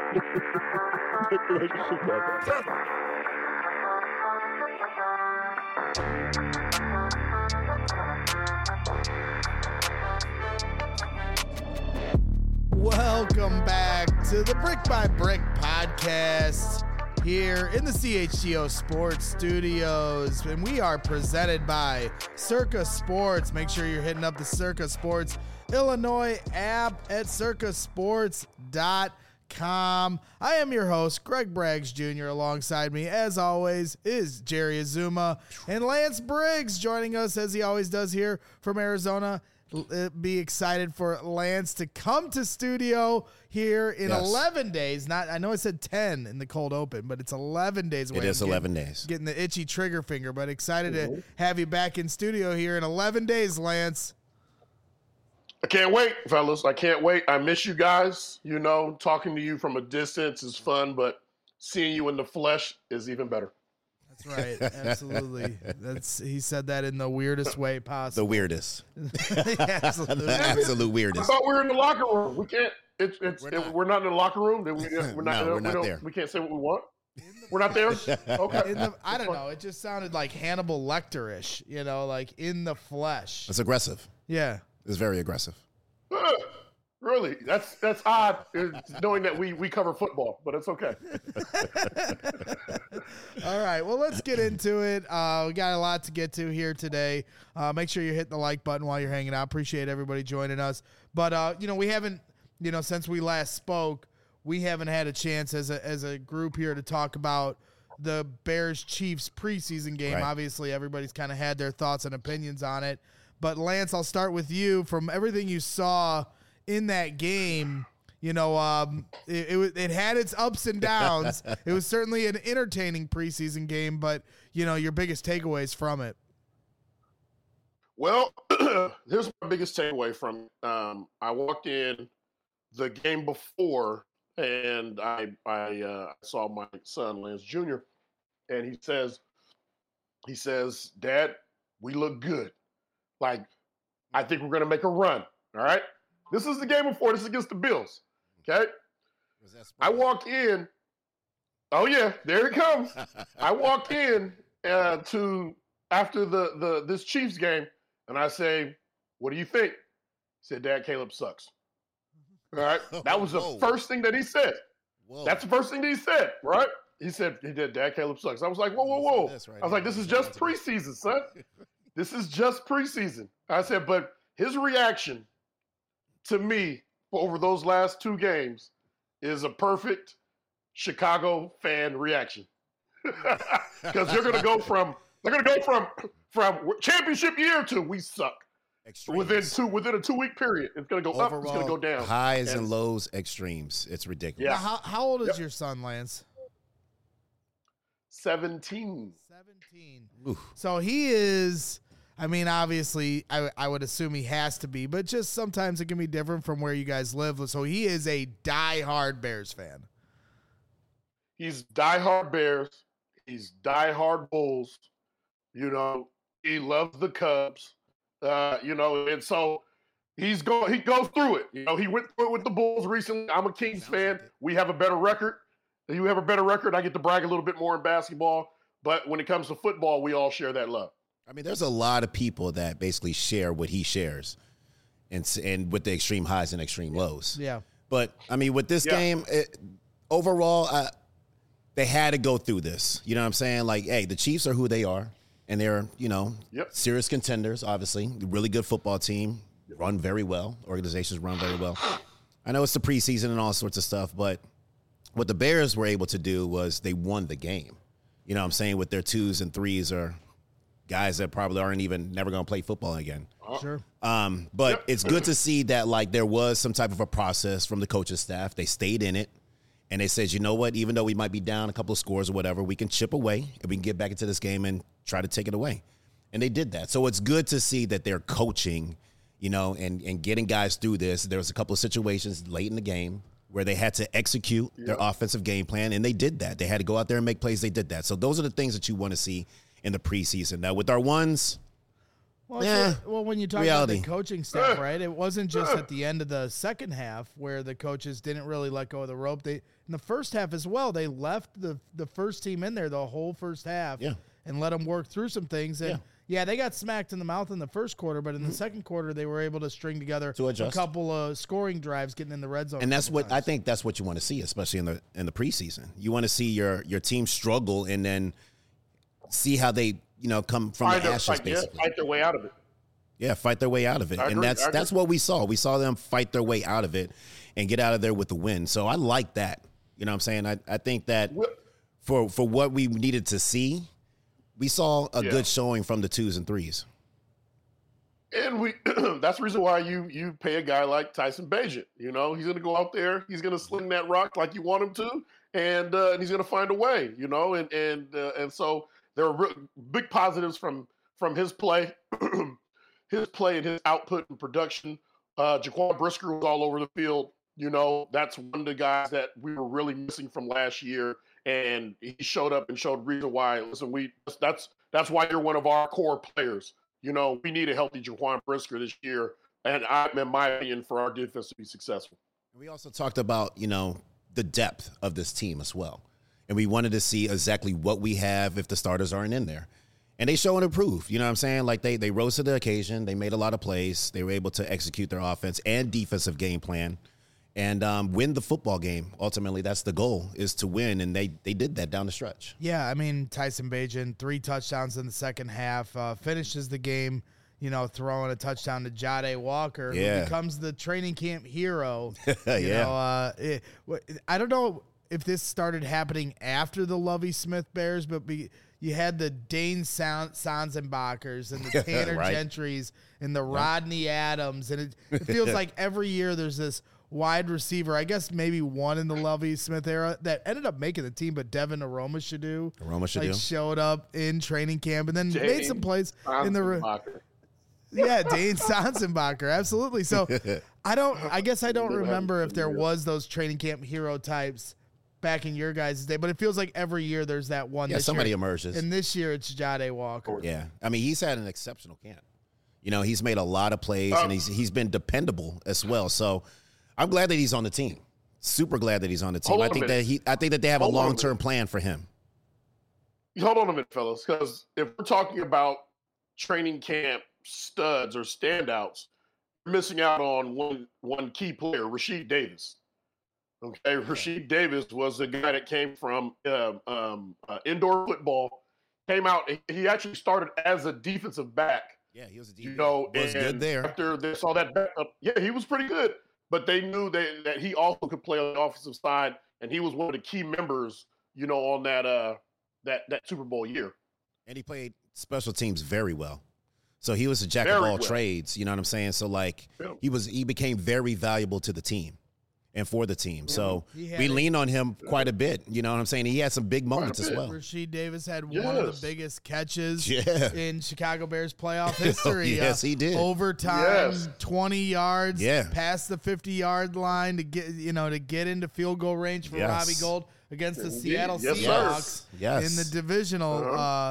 Welcome back to the Brick by Brick podcast here in the CHGO Sports Studios, and we are presented by Circa Sports. Make sure you're hitting up the Circa Sports Illinois app at circasports.com. I am your host, Greg Braggs Jr. Alongside me, as always, is Jerry Azuma and Lance Briggs joining us as he always does here from Arizona. Be excited for Lance to come to studio here in 11 days. I know I said 10 in the cold open, but it's 11 days away. It is 11 days. Getting the itchy trigger finger, but excited to have you back in studio here in 11 days, Lance. I can't wait, fellas. I can't wait. I miss you guys. You know, talking to you from a distance is fun, but seeing you in the flesh is even better. That's right. Absolutely. He said that in the weirdest way possible. The weirdest. Absolutely. The absolute weirdest. I thought we were in the locker room. We can't. We're not in the locker room. We're not there. We can't say what we want. We're not there. Okay. I don't know. It just sounded like Hannibal Lecter-ish. You know, like in the flesh. It's aggressive. Yeah. It's very aggressive. Really? That's odd, knowing that we cover football, but it's okay. All right. Well, let's get into it. We got a lot to get to here today. Make sure you hit the like button while you're hanging out. Appreciate everybody joining us. But, we haven't, since we last spoke, we haven't had a chance as a group here to talk about the Bears-Chiefs preseason game. Right. Obviously, everybody's kind of had their thoughts and opinions on it. But, Lance, I'll start with you. From everything you saw in that game, it had its ups and downs. It was certainly an entertaining preseason game, but, your biggest takeaways from it. Well, here's my biggest takeaway from it. I walked in the game before, and I saw my son, Lance Jr., and he says, Dad, we look good. Like, I think we're going to make a run, all right? This is the game before. This is against the Bills, okay? I walk in. Oh, yeah, there it comes. I walk in to after this Chiefs game, and I say, what do you think? He said, Dad, Caleb sucks. All right? That was the first thing that he said. Whoa. That's the first thing that he said, right? He said, Dad, Caleb sucks. I was like, whoa. I was like, this is just preseason, son. This is just preseason. I said, but his reaction to me over those last two games is a perfect Chicago fan reaction. Because they're going to go from championship year to we suck. Extremes. Within a 2-week period. It's going to go up, it's going to go down. Highs and lows, extremes. It's ridiculous. Yeah. How old is your son, Lance? 17. Oof. So he is, obviously, I would assume he has to be, but just sometimes it can be different from where you guys live. So he is a diehard Bears fan. He's diehard Bears. He's diehard Bulls. He loves the Cubs. And so he goes through it. He went through it with the Bulls recently. I'm a Kings fan. We have a better record. You have a better record. I get to brag a little bit more in basketball. But when it comes to football, we all share that love. There's a lot of people that basically share what he shares and with the extreme highs and extreme lows. Yeah. But, with this game, overall, they had to go through this. You know what I'm saying? Like, hey, the Chiefs are who they are. And they're, serious contenders, obviously. Really good football team. Run very well. Organizations run very well. I know it's the preseason and all sorts of stuff, but what the Bears were able to do was they won the game. You know what I'm saying? With their 2s and 3s are guys that probably aren't even never going to play football again. Sure. But it's good to see that, like, there was some type of a process from the coaching staff. They stayed in it. And they said, you know what, even though we might be down a couple of scores or whatever, we can chip away and we can get back into this game and try to take it away. And they did that. So it's good to see that they're coaching, and getting guys through this. There was a couple of situations late in the game where they had to execute their offensive game plan, and they did that. They had to go out there and make plays. They did that. So those are the things that you want to see in the preseason. Now, with our ones, Well, when you talk about the coaching staff, right, it wasn't just at the end of the second half where the coaches didn't really let go of the rope. In the first half as well, they left the first team in there the whole first half and let them work through some things. And they got smacked in the mouth in the first quarter, but in the second quarter, they were able to string together a couple of scoring drives, getting in the red zone. And that's what I think. That's what you want to see, especially in the preseason. You want to see your team struggle and then see how they come from the ashes, basically fight their way out of it. Yeah, fight their way out of it, and that's what we saw. We saw them fight their way out of it and get out of there with the win. So I like that. You know what I'm saying? I think that for what we needed to see, we saw a good showing from the 2s and 3s. And that's the reason why you pay a guy like Tyson Bagent. He's going to go out there, he's going to sling that rock like you want him to, and he's going to find a way. And so there are big positives from his play, his and his output and production. Jaquan Brisker was all over the field. That's one of the guys that we were really missing from last year. And he showed up and showed reason why. Listen, that's why you're one of our core players. We need a healthy Jaquan Brisker this year, and in my opinion, for our defense to be successful. We also talked about the depth of this team as well, and we wanted to see exactly what we have if the starters aren't in there, and they show and improve. You know what I'm saying? Like they rose to the occasion. They made a lot of plays. They were able to execute their offense and defensive game plan. And win the football game. Ultimately, that's the goal, is to win, and they did that down the stretch. Yeah, I mean, Tyson Bagent, 3 touchdowns in the second half, finishes the game, throwing a touchdown to Jade Walker, who becomes the training camp hero. I don't know if this started happening after the Lovie Smith Bears, but you had the Dane Sanzenbachers and the Tanner Gentrys and the Rodney Adams, and it feels like every year there's this wide receiver, I guess maybe one in the Lovie Smith era that ended up making the team, but Devin Aromashadu showed up in training camp and then made some plays in the Dane Sanzenbacher, absolutely. So I guess I don't remember if there was those training camp hero types back in your guys' day, but it feels like every year there's that one. Yeah, somebody emerges. And this year it's Jade Walker. Yeah, I mean, he's had an exceptional camp. He's made a lot of plays and he's been dependable as well. So I'm glad that he's on the team. Super glad that he's on the team. I think that they have a long-term plan for him. Hold on a minute, fellas, because if we're talking about training camp studs or standouts, we're missing out on one key player, Rasheed Davis. Okay, Rasheed Davis was a guy that came from indoor football, came out. He actually started as a defensive back. Yeah, he was a defensive back. Was good there. After they saw that backup, he was pretty good. But they knew that he also could play on the offensive side, and he was one of the key members, on that Super Bowl year. And he played special teams very well. So he was a jack of all trades, you know what I'm saying? So he became very valuable to the team and for the team. So we lean on him quite a bit, you know what I'm saying? He had some big moments as well. Rasheed Davis had one of the biggest catches in Chicago Bears playoff history. Yes, he did. Overtime, 20 yards, past the 50-yard line to get into field goal range for Robbie Gould against the Seattle Seahawks in the divisional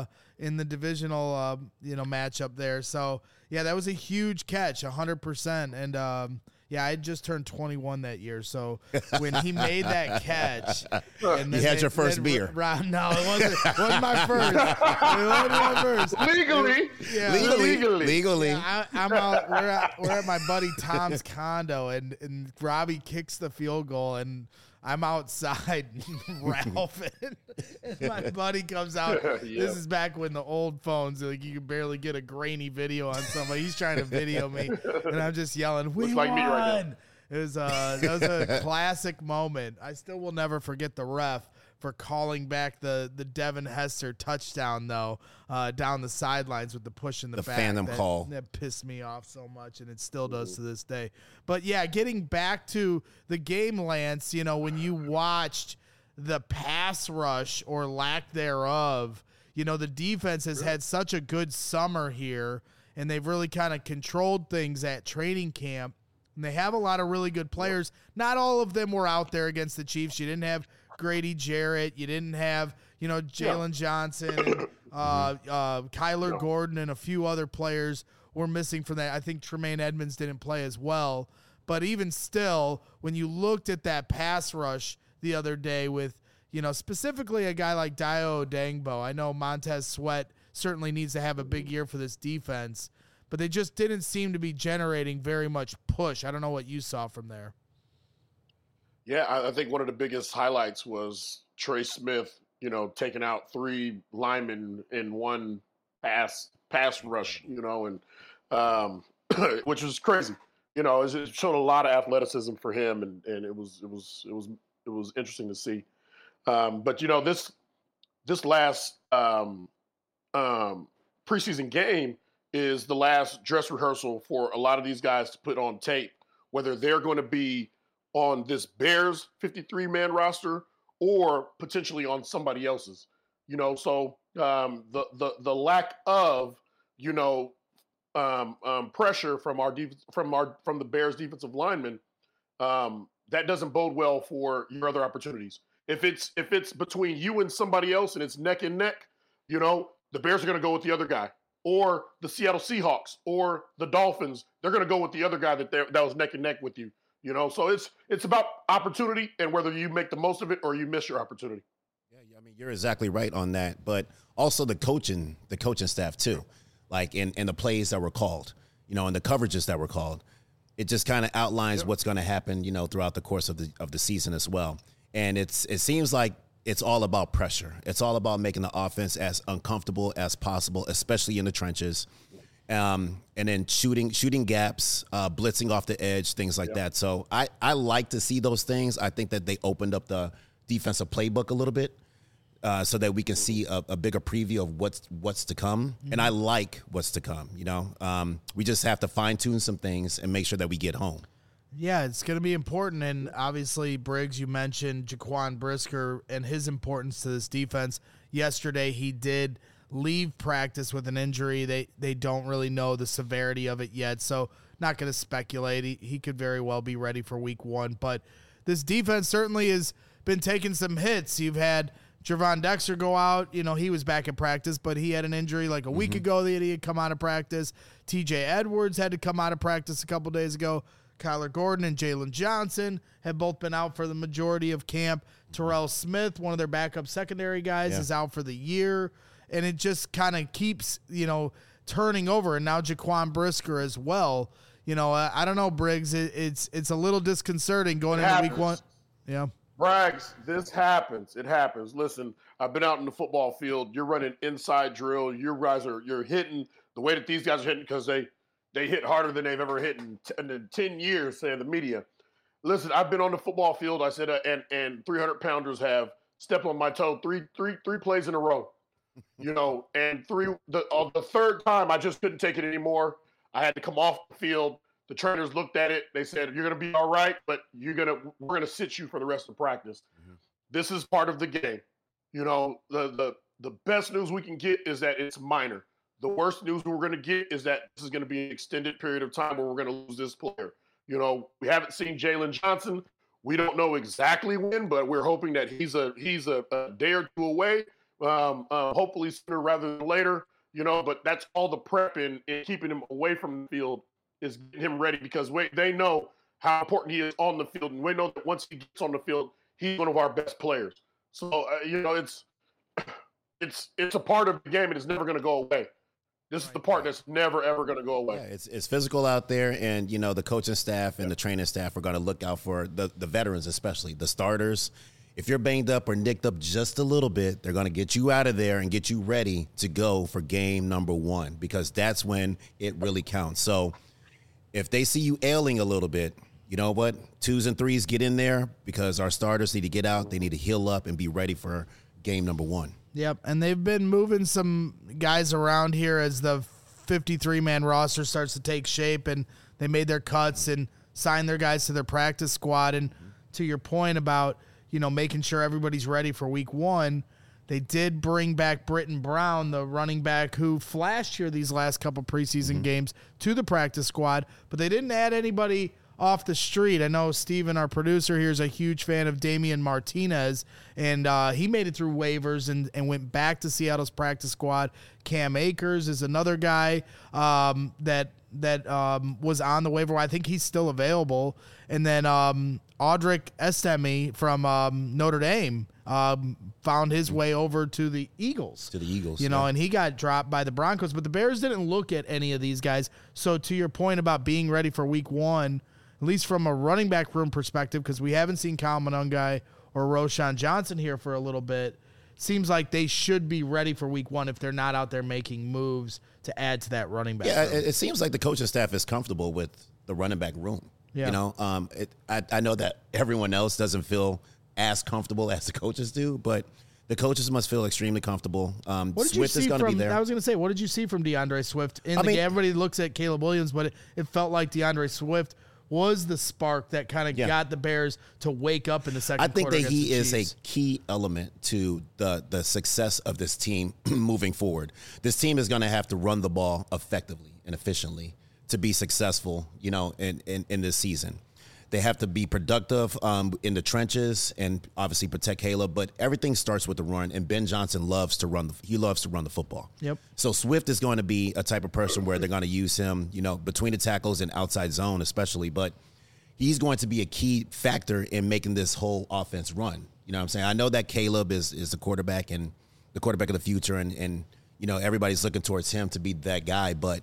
matchup there. So that was a huge catch, 100%. And I had just turned 21 that year, so when he made that catch, and you had your first beer. No, it wasn't. It wasn't my first. It wasn't my first. Legally. Yeah, I'm out. We're at my buddy Tom's condo, and Robbie kicks the field goal, and I'm outside ralphing, and my buddy comes out. This is back when the old phones, like you could barely get a grainy video on somebody. He's trying to video me, and I'm just yelling, "We won!" Me right now. That was a classic moment. I still will never forget the ref for calling back the Devin Hester touchdown, though, down the sidelines with the push in the back. The phantom call. That pissed me off so much, and it still does to this day. But, getting back to the game, Lance, when you watched the pass rush or lack thereof, the defense has had such a good summer here, and they've really kind of controlled things at training camp. And they have a lot of really good players. Not all of them were out there against the Chiefs. You didn't have Grady Jarrett. You didn't have, Jalen Johnson, and Kyler Gordon, and a few other players were missing from that. I think Tremaine Edmonds didn't play as well. But even still, when you looked at that pass rush the other day with, specifically a guy like Dayo Odeyingbo, I know Montez Sweat certainly needs to have a big year for this defense, but they just didn't seem to be generating very much push. I don't know what you saw from there. Yeah, I think one of the biggest highlights was Trey Smith, taking out 3 linemen in one pass rush, and which was crazy. It showed a lot of athleticism for him, and it was interesting to see. But this last preseason game is the last dress rehearsal for a lot of these guys to put on tape, whether they're going to be on this Bears 53-man roster or potentially on somebody else's. So the lack of pressure from the Bears defensive linemen, that doesn't bode well for your other opportunities. If it's between you and somebody else and it's neck and neck, the Bears are going to go with the other guy, or the Seattle Seahawks or the Dolphins. They're going to go with the other guy that was neck and neck with you. So it's about opportunity and whether you make the most of it or you miss your opportunity. Yeah, I mean, you're exactly right on that, but also the coaching staff too, like in the plays that were called, and the coverages that were called. It just kind of outlines what's going to happen, throughout the course of the season as well. And it seems like it's all about pressure. It's all about making the offense as uncomfortable as possible, especially in the trenches. And then shooting gaps, blitzing off the edge, things like that. So I like to see those things. I think that they opened up the defensive playbook a little bit so that we can see a bigger preview of what's to come. Mm-hmm. And I like what's to come, We just have to fine-tune some things and make sure that we get home. Yeah, it's going to be important. And obviously, Briggs, you mentioned Jaquan Brisker and his importance to this defense. Yesterday, he did leave practice with an injury. They don't really know the severity of it yet, so not going to speculate. He could very well be ready for week 1. But this defense certainly has been taking some hits. You've had Gervon Dexter go out. He was back in practice, but he had an injury like a week ago that he had come out of practice. TJ Edwards had to come out of practice a couple days ago. Kyler Gordon and Jalen Johnson have both been out for the majority of camp. Terrell Smith, one of their backup secondary guys, is out for the year. And it just kind of keeps, turning over. And now Jaquan Brisker as well. I don't know, Briggs. It's a little disconcerting going into week 1. Yeah. Braggs, this happens. It happens. Listen, I've been out in the football field. You're running inside drill. You're hitting the way that these guys are hitting because they hit harder than they've ever hit in 10 years, say the media. Listen, I've been on the football field. I said, and 300-pounders have stepped on my toe three plays in a row. And the third time I just couldn't take it anymore. I had to come off the field. The trainers looked at it. They said, "You're going to be all right, but we're going to sit you for the rest of practice." Mm-hmm. This is part of the game. The best news we can get is that it's minor. The worst news we're going to get is that this is going to be an extended period of time where we're going to lose this player. We haven't seen Jalen Johnson. We don't know exactly when, but we're hoping that he's a day or two away. Hopefully sooner rather than later. But that's all the prep in keeping him away from the field is getting him ready because they know how important he is on the field, and we know that once he gets on the field, he's one of our best players. So it's a part of the game, and it's never going to go away. This is the part that's never, ever going to go away. Yeah, it's physical out there, and, the coaching staff and the training staff are going to look out for the veterans, especially the starters. If you're banged up or nicked up just a little bit, they're going to get you out of there and get you ready to go for game number 1 because that's when it really counts. So if they see you ailing a little bit, you know what? 2s and 3s get in there because our starters need to get out. They need to heal up and be ready for game number 1. Yep, and they've been moving some guys around here as the 53-man roster starts to take shape, and they made their cuts and signed their guys to their practice squad. And to your point about, making sure everybody's ready for week 1, they did bring back Britton Brown, the running back who flashed here these last couple preseason games, to the practice squad, but they didn't add anybody off the street. I know Steven, our producer here, is a huge fan of Damian Martinez, and he made it through waivers and went back to Seattle's practice squad. Cam Akers is another guy that was on the waiver. I think he's still available. And then Audric Estime from Notre Dame found his way over to the Eagles. And he got dropped by the Broncos. But the Bears didn't look at any of these guys. So to your point about being ready for week 1, at least from a running back room perspective, because we haven't seen Kyle Monangai or Roschon Johnson here for a little bit, seems like they should be ready for week 1 if they're not out there making moves to add to that running back room. It seems like the coaching staff is comfortable with the running back room. Yeah. I know that everyone else doesn't feel as comfortable as the coaches do, but the coaches must feel extremely comfortable. Swift is going to be there. I was going to say, what did you see from DeAndre Swift? Everybody looks at Caleb Williams, but it felt like DeAndre Swift was the spark that kind of got the Bears to wake up in the second quarter. I think that he is a key element to the success of this team moving forward. This team is going to have to run the ball effectively and efficiently to be successful, in this season. They have to be productive in the trenches and obviously protect Caleb, but everything starts with the run, and Ben Johnson loves to run the football. Yep. So Swift is going to be a type of person where they're going to use him, between the tackles and outside zone especially, but he's going to be a key factor in making this whole offense run. You know what I'm saying? I know that Caleb is the quarterback and the quarterback of the future, and everybody's looking towards him to be that guy, but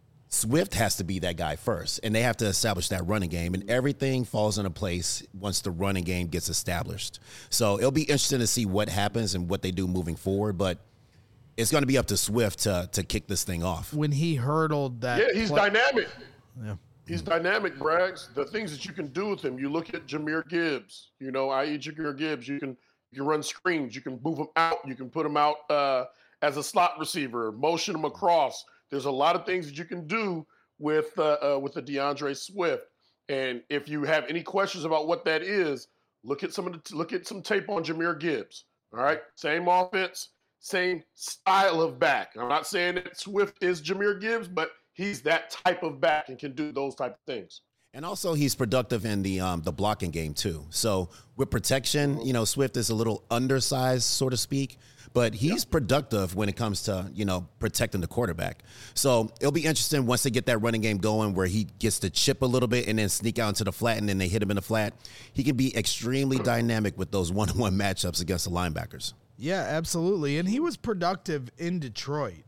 Swift has to be that guy first, and they have to establish that running game, and everything falls into place once the running game gets established. So it'll be interesting to see what happens and what they do moving forward, but it's going to be up to Swift to kick this thing off. When he hurdled that. Yeah, he's dynamic. Yeah. He's dynamic, Braggs. The things that you can do with him, you look at Jahmyr Gibbs, i.e. Jahmyr Gibbs, you can run screens, you can move him out, you can put him out as a slot receiver, motion him across. There's a lot of things that you can do with the DeAndre Swift, and if you have any questions about what that is, look at some tape on Jahmyr Gibbs. All right, same offense, same style of back. I'm not saying that Swift is Jahmyr Gibbs, but he's that type of back and can do those type of things. And also, he's productive in the blocking game too. So with protection, Swift is a little undersized, so to speak. But he's productive when it comes to, protecting the quarterback. So it'll be interesting once they get that running game going where he gets to chip a little bit and then sneak out into the flat and then they hit him in the flat. He can be extremely dynamic with those one-on-one matchups against the linebackers. Yeah, absolutely. And he was productive in Detroit,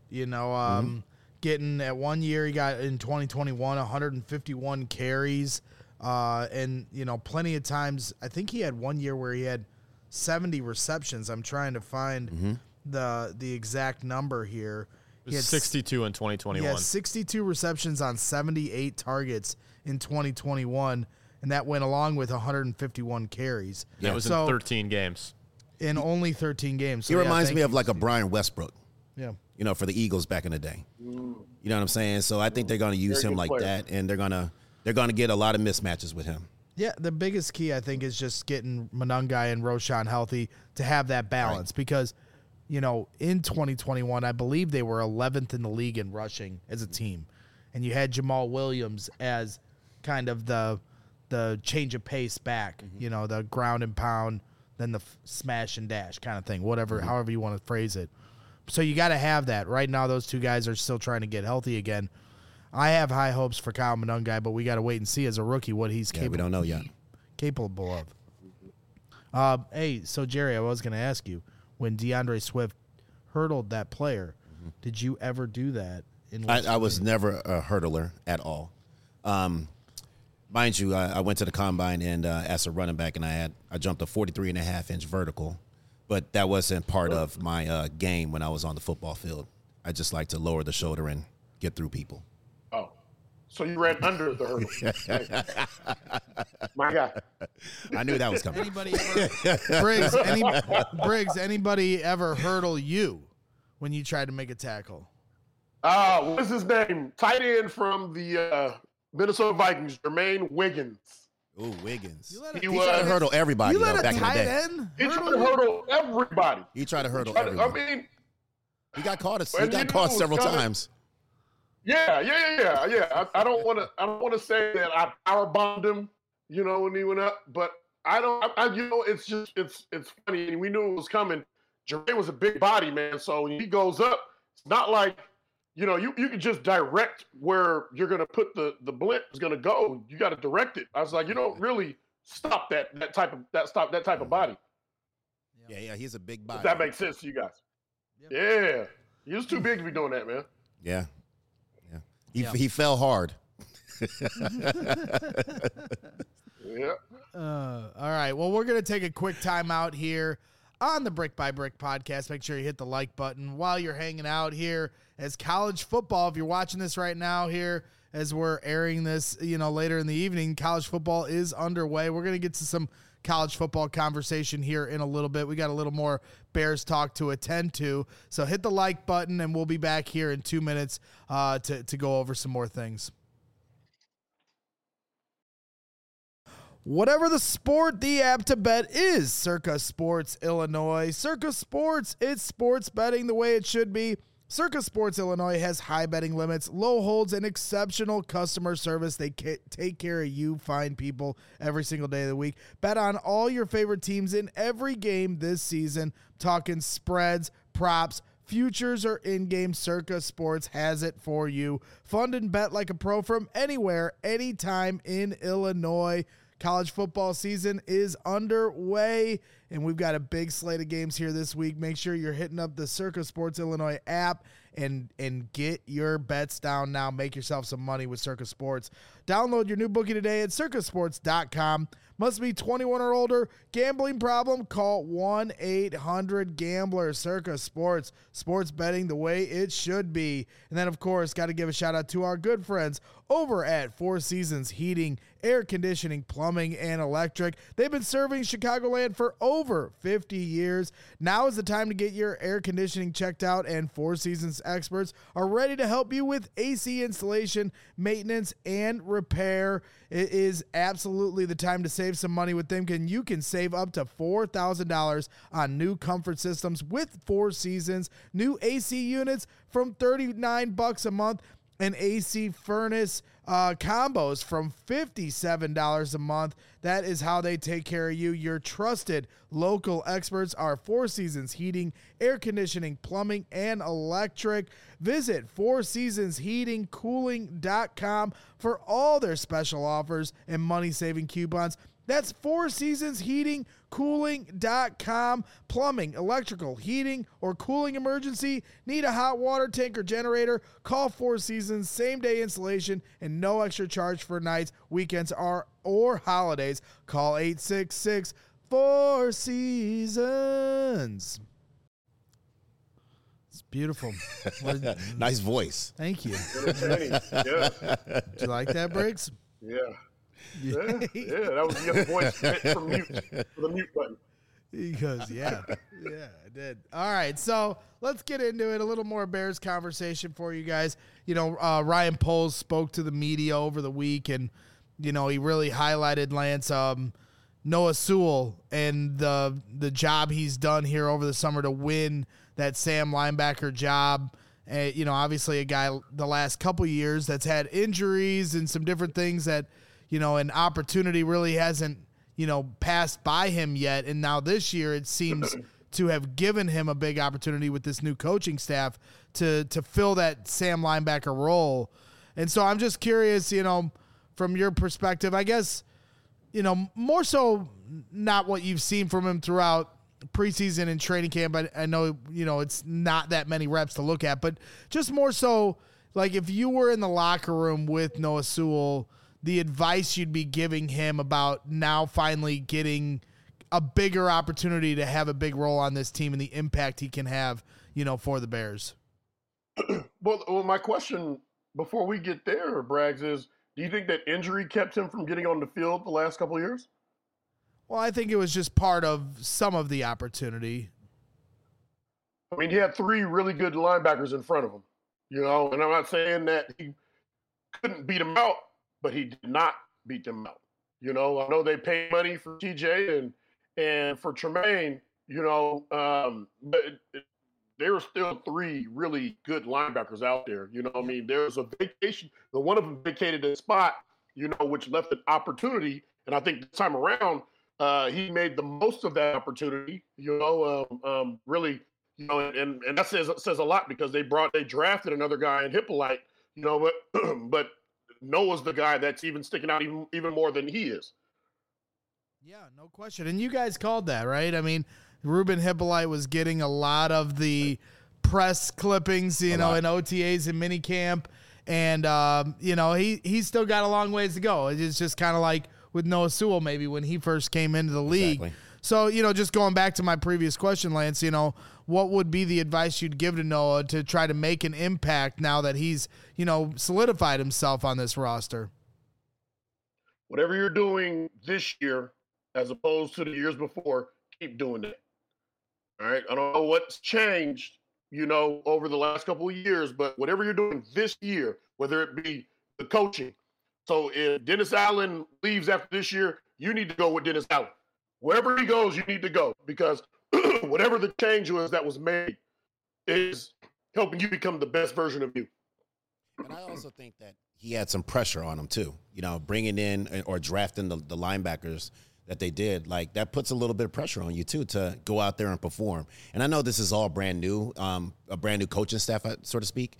getting at 1 year, he got in 2021, 151 carries. And, plenty of times, I think he had 1 year where he had 70 receptions. I'm trying to find the exact number here. He had 62 in 2021. Yeah, 62 receptions on 78 targets in 2021, and that went along with 151 carries. That was in 13 games. In only 13 games. So he reminds me of like a Brian Westbrook. Yeah. For the Eagles back in the day. You know what I'm saying? So I think they're going to use him like that, and they're going to get a lot of mismatches with him. Yeah, the biggest key, I think, is just getting Monangai and Roschon healthy to have that balance because, in 2021, I believe they were 11th in the league in rushing as a team. And you had Jamal Williams as kind of the change of pace back, the ground and pound, then the smash and dash kind of thing, however you want to phrase it. So you got to have that. Right now, those two guys are still trying to get healthy again. I have high hopes for Kyle Monangai, but we got to wait and see as a rookie what he's capable. We don't know yet. Capable of. Hey, so Jerry, I was going to ask you, when DeAndre Swift hurdled that player, did you ever do that? I was never a hurdler at all. Mind you, I went to the combine and as a running back, and I jumped a 43.5-inch vertical, but that wasn't part of my game when I was on the football field. I just like to lower the shoulder and get through people. So you ran under the hurdle. My God. I knew that was coming. Briggs, anybody ever hurdle you when you tried to make a tackle? What is his name? Tight end from the Minnesota Vikings, Jermaine Wiggins. Ooh, Wiggins. He tried to hurdle everybody back in the day. He tried to hurdle everybody. He tried to hurdle everybody. I mean, he got caught several times. Yeah. I don't want to say that I power bombed him, when he went up, but it's funny. And we knew it was coming. Jermaine was a big body, man. So when he goes up, it's not like, you can just direct where you're going to put the blimp is going to go. You got to direct it. I was like, you don't really stop that type of body. Yeah, he's a big body. If that makes sense to you guys. Yep. Yeah. He was too big to be doing that, man. Yeah. He fell hard. Yeah. All right. Well, we're going to take a quick timeout here on the Brick by Brick podcast. Make sure you hit the like button while you're hanging out here as college football. If you're watching this right now here as we're airing this, later in the evening, college football is underway. We're going to get to some college football conversation here in a little bit. We got a little more Bears talk to attend to. So hit the like button and we'll be back here in 2 minutes to go over some more things. Whatever the sport, the app to bet is Circa Sports Illinois. Circa Sports, it's sports betting the way it should be. Circa Sports Illinois has high betting limits, low holds, and exceptional customer service. They take care of you fine people every single day of the week. Bet on all your favorite teams in every game this season. Talking spreads, props, futures, or in-game, Circa Sports has it for you. Fund and bet like a pro from anywhere, anytime in Illinois. College football season is underway, and we've got a big slate of games here this week. Make sure you're hitting up the Circa Sports Illinois app and get your bets down now. Make yourself some money with Circa Sports. Download your new bookie today at circasports.com. Must be 21 or older. Gambling problem? Call 1-800-GAMBLER. Circa Sports. Sports betting the way it should be. And then, of course, got to give a shout-out to our good friends over at Four Seasons Heating, Air Conditioning, Plumbing, and Electric. They've been serving Chicagoland for over 50 years. Now is the time to get your air conditioning checked out, and Four Seasons experts are ready to help you with AC installation, maintenance, and repair. It is absolutely the time to save some money with them. You can save up to $4,000 on new comfort systems with Four Seasons. New AC units from $39 a month. And AC furnace combos from $57 a month. That is how they take care of you. Your trusted local experts are Four Seasons Heating, Air Conditioning, Plumbing, and Electric. Visit fourseasonsheatingcooling.com for all their special offers and money-saving coupons. That's fourseasonsheatingcooling.com. Plumbing, electrical, heating, or cooling emergency? Need a hot water tank or generator? Call Four Seasons. Same-day installation and no extra charge for nights, weekends, or holidays. Call 866-4-SEASONS. It's beautiful. Nice voice. Thank you. Yeah. Did you like that, Briggs? Yeah. That was the other voice for the mute button. Because, I did. All right, so let's get into it. A little more Bears conversation for you guys. Ryan Poles spoke to the media over the week, and, he really highlighted Lance Noah Sewell and the job he's done here over the summer to win that Sam linebacker job. Obviously a guy the last couple years that's had injuries and some different things that, an opportunity really hasn't, passed by him yet. And now this year it seems to have given him a big opportunity with this new coaching staff to fill that Sam linebacker role. And so I'm just curious, from your perspective, I guess, more so not what you've seen from him throughout preseason and training camp. I know, it's not that many reps to look at, but just more so like if you were in the locker room with Noah Sewell, the advice you'd be giving him about now finally getting a bigger opportunity to have a big role on this team and the impact he can have, for the Bears. Well, my question before we get there, Braggs, is do you think that injury kept him from getting on the field the last couple of years? Well, I think it was just part of some of the opportunity. I mean, he had three really good linebackers in front of him, and I'm not saying that he couldn't beat them out, but he did not beat them out. I know they paid money for TJ and for Tremaine, but there were still three really good linebackers out there. You know what I mean? There was a vacation. The one of them vacated a spot, you know, which left an opportunity. And I think this time around, he made the most of that opportunity, you know, really, you know, and that says a lot because they drafted another guy in Hippolyte, you know, but Noah's the guy that's even sticking out even more than he is. Yeah, no question. And you guys called that, right? I mean, Ruben Hippolyte was getting a lot of the press clippings, you know, in OTAs and minicamp. And, you know, he's still got a long ways to go. It's just kind of like with Noah Sewell maybe when he first came into the league. Exactly. So, you know, just going back to my previous question, Lance, you know, what would be the advice you'd give to Noah to try to make an impact now that he's, you know, solidified himself on this roster? Whatever you're doing this year, as opposed to the years before, keep doing that. All right. I don't know what's changed, you know, over the last couple of years, but whatever you're doing this year, whether it be the coaching. So if Dennis Allen leaves after this year, you need to go with Dennis Allen. Wherever he goes, you need to go because whatever the change was that was made is helping you become the best version of you. And I also think that he had some pressure on him too, you know, bringing in or drafting the linebackers that they did, like that puts a little bit of pressure on you too to go out there and perform. And I know this is all brand new, a brand new coaching staff, so to speak.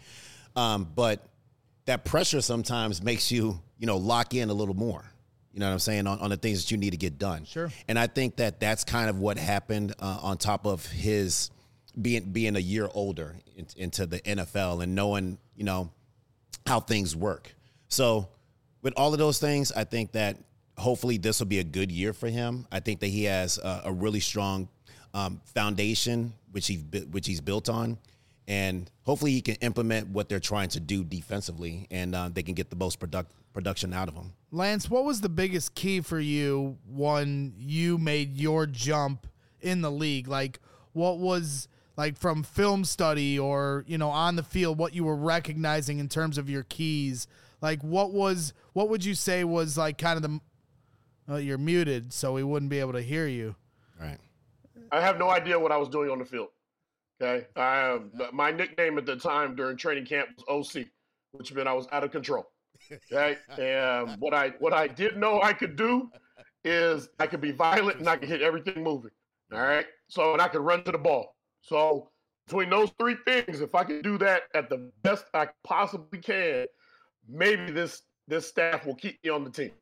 But that pressure sometimes makes you, you know, lock in a little more. You know what I'm saying? On the things that you need to get done. Sure. And I think that that's kind of what happened on top of his being a year older into the NFL and knowing, you know, how things work. So with all of those things, I think that hopefully this will be a good year for him. I think that he has a really strong foundation, which he's built on. And hopefully he can implement what they're trying to do defensively, and they can get the most production out of him. Lance, what was the biggest key for you when you made your jump in the league? Like, what was, like, from film study or, you know, on the field, what you were recognizing in terms of your keys? Like, what would you say was, like, kind of you're muted, so we wouldn't be able to hear you. All right. I have no idea what I was doing on the field. Okay. My nickname at the time during training camp was OC, which meant I was out of control. Okay. And what I did know I could do is I could be violent and I could hit everything moving. All right. So, and I could run to the ball. So between those three things, if I could do that at the best I possibly can, maybe this staff will keep me on the team.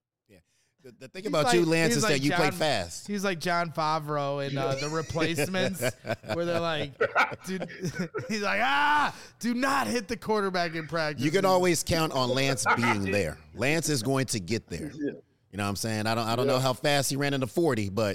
The thing about you, Lance, is that you play fast. He's like John Favreau in The Replacements, where they're like, dude, he's like, do not hit the quarterback in practice. You can always count on Lance being there. Lance is going to get there. You know what I'm saying? I don't know how fast he ran in the 40, but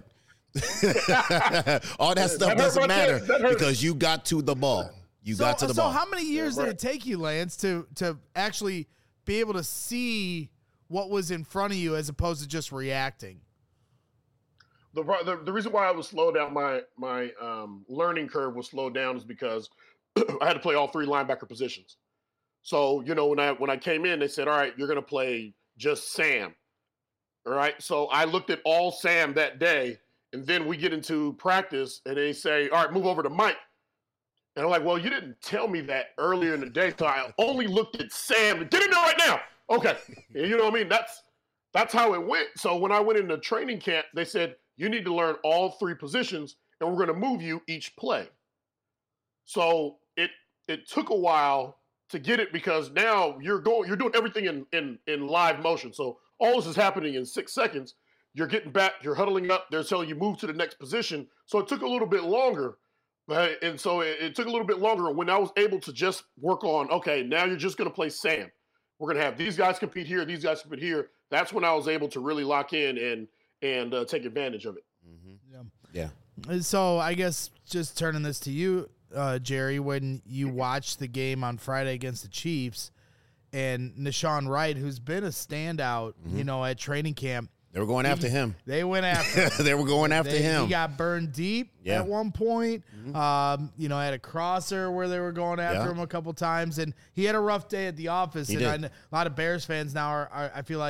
all that stuff doesn't matter because you got to the ball. You got to the ball. So how many years did it take you, Lance, to actually be able to see what was in front of you as opposed to just reacting? The reason why I was slow down, my learning curve was slowed down is because I had to play all three linebacker positions. So, you know, when I came in, they said, all right, you're going to play just Sam. All right. So I looked at all Sam that day, and then we get into practice and they say, all right, move over to Mike. And I'm like, well, you didn't tell me that earlier in the day. So I only looked at Sam and didn't know right now. Okay. You know what I mean? That's how it went. So when I went into training camp, they said, you need to learn all three positions and we're going to move you each play. So it took a while to get it because now you're doing everything in live motion. So all this is happening in 6 seconds. You're getting back, you're huddling up, they're telling you move to the next position. So it took a little bit longer. Right? And so it took a little bit longer when I was able to just work on, okay, now you're just going to play Sam. We're going to have these guys compete here, these guys compete here. That's when I was able to really lock in and take advantage of it. Mm-hmm. Yeah. And so I guess just turning this to you, Jerry, when you watched the game on Friday against the Chiefs and Nahshon Wright, who's been a standout, you know, at training camp. They were going after him. They went after him. They were going after him. He got burned deep at one point. Mm-hmm. You know, had a crosser where they were going after him a couple times. And he had a rough day at the office. And a lot of Bears fans now are I feel like,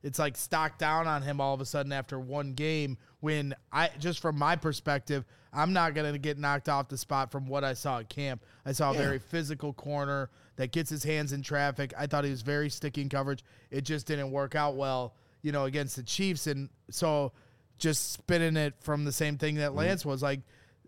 it's like stocked down on him all of a sudden after one game when just from my perspective, I'm not going to get knocked off the spot from what I saw at camp. I saw a very physical corner that gets his hands in traffic. I thought he was very sticky in coverage. It just didn't work out well, against the Chiefs. And so just spinning it from the same thing that Lance was like,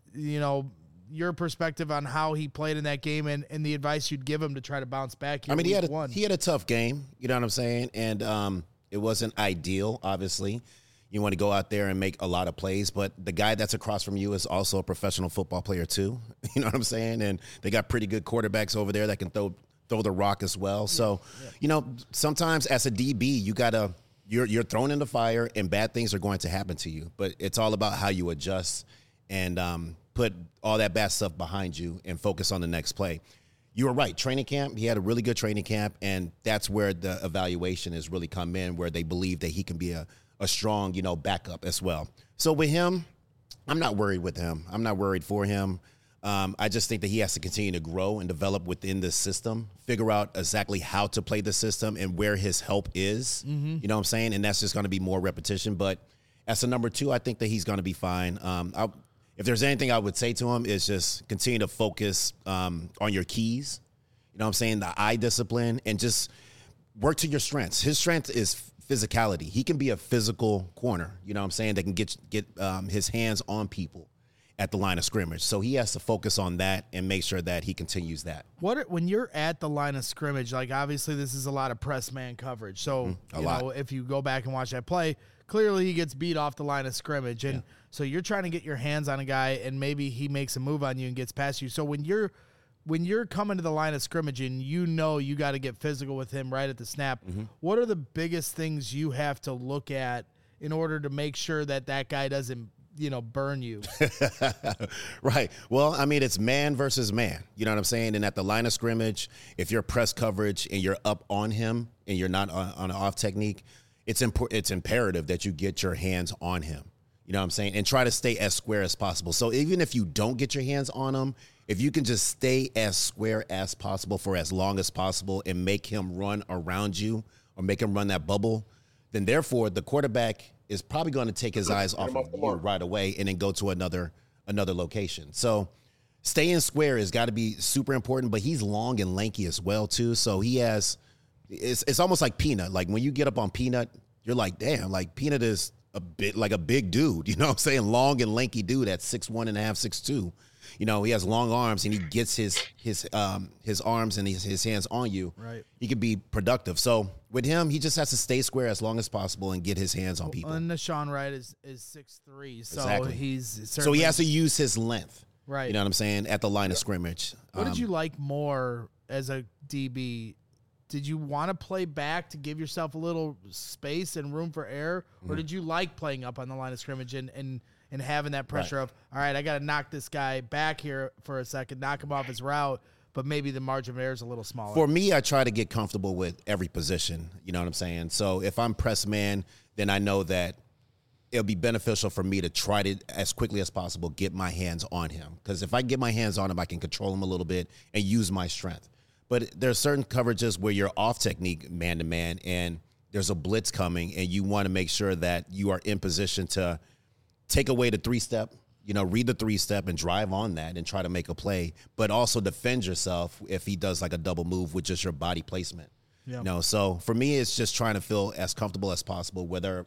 your perspective on how he played in that game and the advice you'd give him to try to bounce back here. He had a tough game, you know what I'm saying? And it wasn't ideal, obviously. You want to go out there and make a lot of plays, but the guy that's across from you is also a professional football player too. You know what I'm saying? And they got pretty good quarterbacks over there that can throw the rock as well. So, sometimes as a DB, you're thrown in the fire and bad things are going to happen to you. But it's all about how you adjust and put all that bad stuff behind you and focus on the next play. You were right. Training camp, he had a really good training camp, and that's where the evaluation has really come in, where they believe that he can be a strong, backup as well. So with him, I'm not worried with him. I'm not worried for him. I just think that he has to continue to grow and develop within this system, figure out exactly how to play the system and where his help is. You know what I'm saying? And that's just going to be more repetition. But as a number 2, I think that he's going to be fine. If there's anything I would say to him is just continue to focus on your keys. You know what I'm saying? The eye discipline and just work to your strengths. His strength is physicality. He can be a physical corner, you know what I'm saying, that can get his hands on people at the line of scrimmage. So he has to focus on that and make sure that he continues that. When you're at the line of scrimmage, like obviously this is a lot of press man coverage. So, if you go back and watch that play, clearly he gets beat off the line of scrimmage. And so you're trying to get your hands on a guy and maybe he makes a move on you and gets past you. So when you're coming to the line of scrimmage and you got to get physical with him right at the snap, what are the biggest things you have to look at in order to make sure that guy doesn't, burn you? Right. Well, I mean, it's man versus man. You know what I'm saying? And at the line of scrimmage, if you're press coverage and you're up on him and you're not on an off technique, it's imperative that you get your hands on him. You know what I'm saying? And try to stay as square as possible. So even if you don't get your hands on him, if you can just stay as square as possible for as long as possible and make him run around you or make him run that bubble, then therefore the quarterback is probably going to take his eyes off of you right away and then go to another location. So staying square has got to be super important, but he's long and lanky as well too. So it's almost like Peanut. Like when you get up on Peanut, you're like, damn, like Peanut is a bit like a big dude, you know what I'm saying? Long and lanky dude at 6'1.5", 6'2". He has long arms and he gets his arms and his hands on you. Right. He could be productive. So with him, he just has to stay square as long as possible and get his hands on people. And Nashawn Wright is 6'3", so exactly. So he has to use his length. Right. You know what I'm saying? At the line of scrimmage. What did you like more as a DB? Did you want to play back to give yourself a little space and room for error? Or did you like playing up on the line of scrimmage and having that pressure of, all right, I got to knock this guy back here for a second, knock him off his route, but maybe the margin of error is a little smaller? For me, I try to get comfortable with every position. You know what I'm saying? So if I'm press man, then I know that it'll be beneficial for me to try to, as quickly as possible, get my hands on him. Because if I get my hands on him, I can control him a little bit and use my strength. But there are certain coverages where you're off technique man-to-man and there's a blitz coming and you want to make sure that you are in position to take away the 3-step, read the 3-step and drive on that and try to make a play, but also defend yourself if he does like a double move with just your body placement. Yeah. So for me, it's just trying to feel as comfortable as possible, whether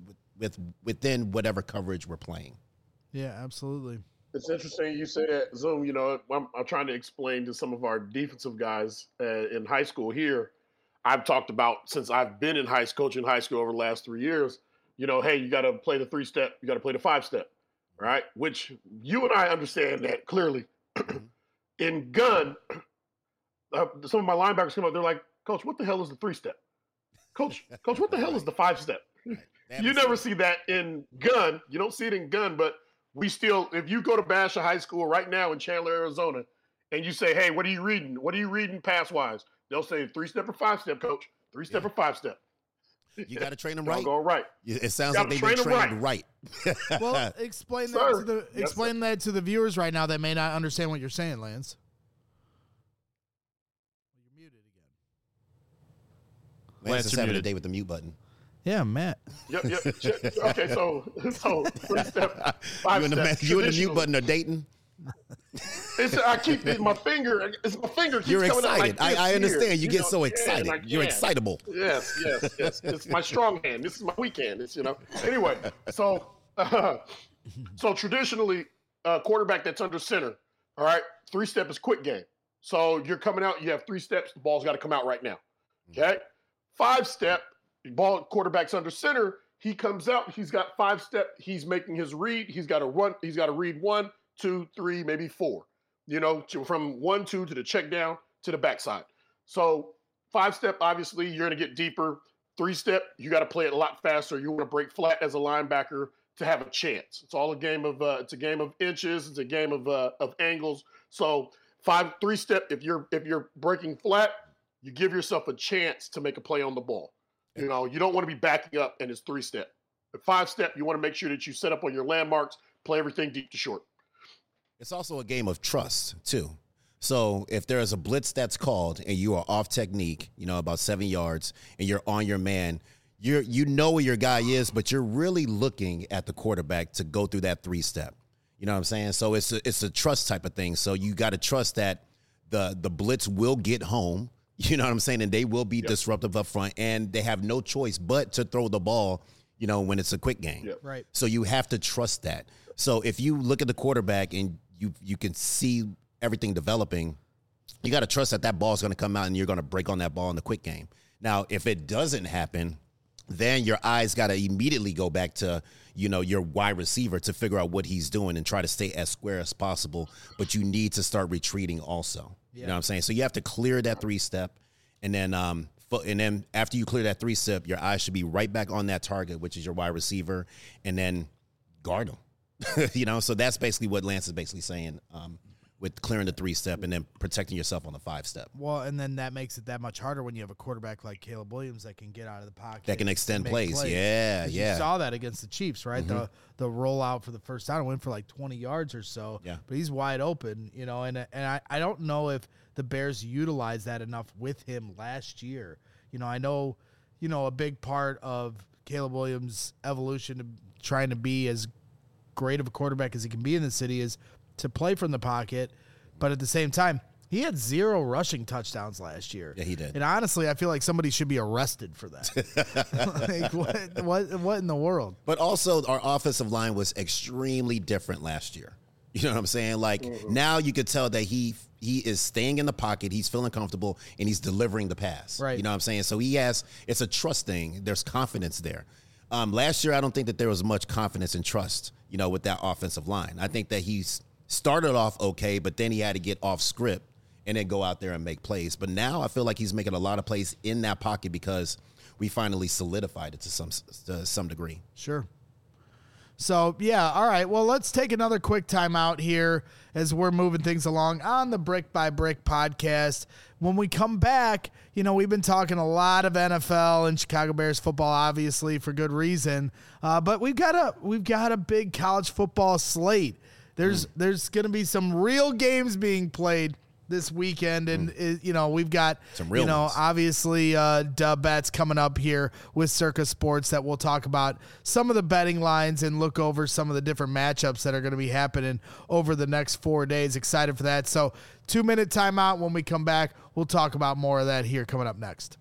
within whatever coverage we're playing. Yeah, absolutely. It's interesting you say that, Zoom. I'm trying to explain to some of our defensive guys in high school here. I've talked about, since I've been in coaching high school over the last 3 years, hey, you got to play the 3-step, you got to play the 5-step, right? Which you and I understand that clearly. In gun, some of my linebackers come up, they're like, Coach, what the hell is the 3-step? Coach, what the hell is the 5-step? You never see that in gun. You don't see it in gun, but we still, if you go to Basha High School right now in Chandler, Arizona, and you say, hey, what are you reading? What are you reading pass-wise? They'll say 3-step or 5-step, Coach. 3-step or 5-step. You got to train them right. Go right. It sounds like they've been trained right. Well, explain that to the viewers right now that may not understand what you're saying, Lance. Lance is having a day with the mute button. Yeah, Matt. Yep. Okay, so 3 step, 5 step. You and the mute button are dating? I keep my finger. It's my finger keeps You're coming excited. out like I understand. Here, You get so excited. You're excitable. Yes. It's my strong hand. This is my weak hand. Anyway, so traditionally, quarterback that's under center, all right, 3 step is quick game. So you're coming out, you have 3 steps, the ball's got to come out right now. Okay? 5 step, quarterback's under center, he comes out, he's got 5 step, he's making his read, he's got to read 1, 2, 3, maybe 4. From 1, 2 to the check down to the backside. So 5 step, obviously, you're going to get deeper. 3 step, you got to play it a lot faster. You want to break flat as a linebacker to have a chance. It's all a game of inches. It's a game of angles. So 3 step, if you're breaking flat, you give yourself a chance to make a play on the ball. You don't want to be backing up and it's 3 step. At 5 step, you want to make sure that you set up on your landmarks, play everything deep to short. It's also a game of trust, too. So if there is a blitz that's called and you are off technique, about 7 yards, and you're on your man, you know where your guy is, but you're really looking at the quarterback to go through that 3 step. You know what I'm saying? So it's a trust type of thing. So you got to trust that the blitz will get home. You know what I'm saying? And they will be disruptive up front, and they have no choice but to throw the ball, when it's a quick game. Yep. Right. So you have to trust that. So if you look at the quarterback and you can see everything developing, you got to trust that ball is going to come out and you're going to break on that ball in the quick game. Now, if it doesn't happen, then your eyes got to immediately go back to, your wide receiver to figure out what he's doing and try to stay as square as possible. But you need to start retreating also. Yeah. You know what I'm saying? So you have to clear that 3 step. And then after you clear that 3 step, your eyes should be right back on that target, which is your wide receiver, and then guard him. So that's basically what Lance is basically saying. With clearing the 3 step and then protecting yourself on the 5 step. Well, and then that makes it that much harder when you have a quarterback like Caleb Williams that can get out of the pocket. That can extend plays. Yeah. You saw that against the Chiefs, right? Mm-hmm. The rollout for the first down went for like 20 yards or so. Yeah. But he's wide open, and I don't know if the Bears utilized that enough with him last year. I know, a big part of Caleb Williams' evolution to trying to be as great of a quarterback as he can be in the city is to play from the pocket, but at the same time, he had 0 rushing touchdowns last year. Yeah, he did. And honestly, I feel like somebody should be arrested for that. What in the world? But also, our offensive line was extremely different last year. You know what I'm saying? Now you could tell that he is staying in the pocket, he's feeling comfortable, and he's delivering the pass. Right. You know what I'm saying? So it's a trust thing. There's confidence there. Last year, I don't think that there was much confidence and trust, with that offensive line. I think that he's started off okay, but then he had to get off script and then go out there and make plays. But now I feel like he's making a lot of plays in that pocket because we finally solidified it to some degree. Sure. So, yeah, all right. Well, let's take another quick timeout here as we're moving things along on the Brick by Brick podcast. When we come back, we've been talking a lot of NFL and Chicago Bears football, obviously, for good reason. But we've got a big college football slate. There's going to be some real games being played this weekend, and we've got some real ones. Obviously dub bets coming up here with Circa Sports that we'll talk about some of the betting lines and look over some of the different matchups that are going to be happening over the next 4 days. Excited for that. So 2-minute timeout. When we come back, we'll talk about more of that here coming up next.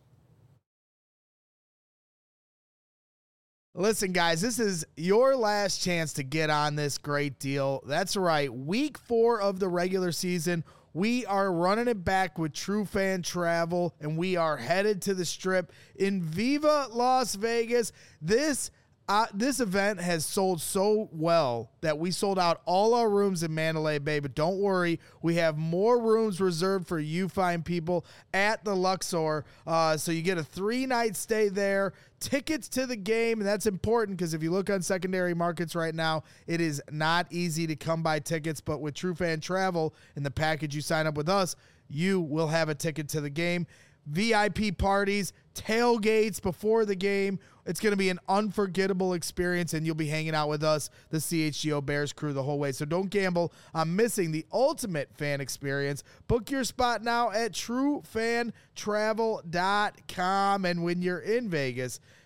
Listen, guys, this is your last chance to get on this great deal. That's right. Week 4 of the regular season, we are running it back with True Fan Travel, and we are headed to the Strip in Viva Las Vegas. This event has sold so well that we sold out all our rooms in Mandalay Bay, but don't worry, we have more rooms reserved for you fine people at the Luxor. So you get a 3-night stay there, tickets to the game, and that's important because if you look on secondary markets right now, it is not easy to come by tickets, but with True Fan Travel and the package you sign up with us, you will have a ticket to the game. VIP parties, tailgates before the game. It's going to be an unforgettable experience, and you'll be hanging out with us, the CHGO Bears crew, the whole way. So don't gamble on missing the ultimate fan experience. Book your spot now at TrueFanTravel.com. And when you're in Vegas,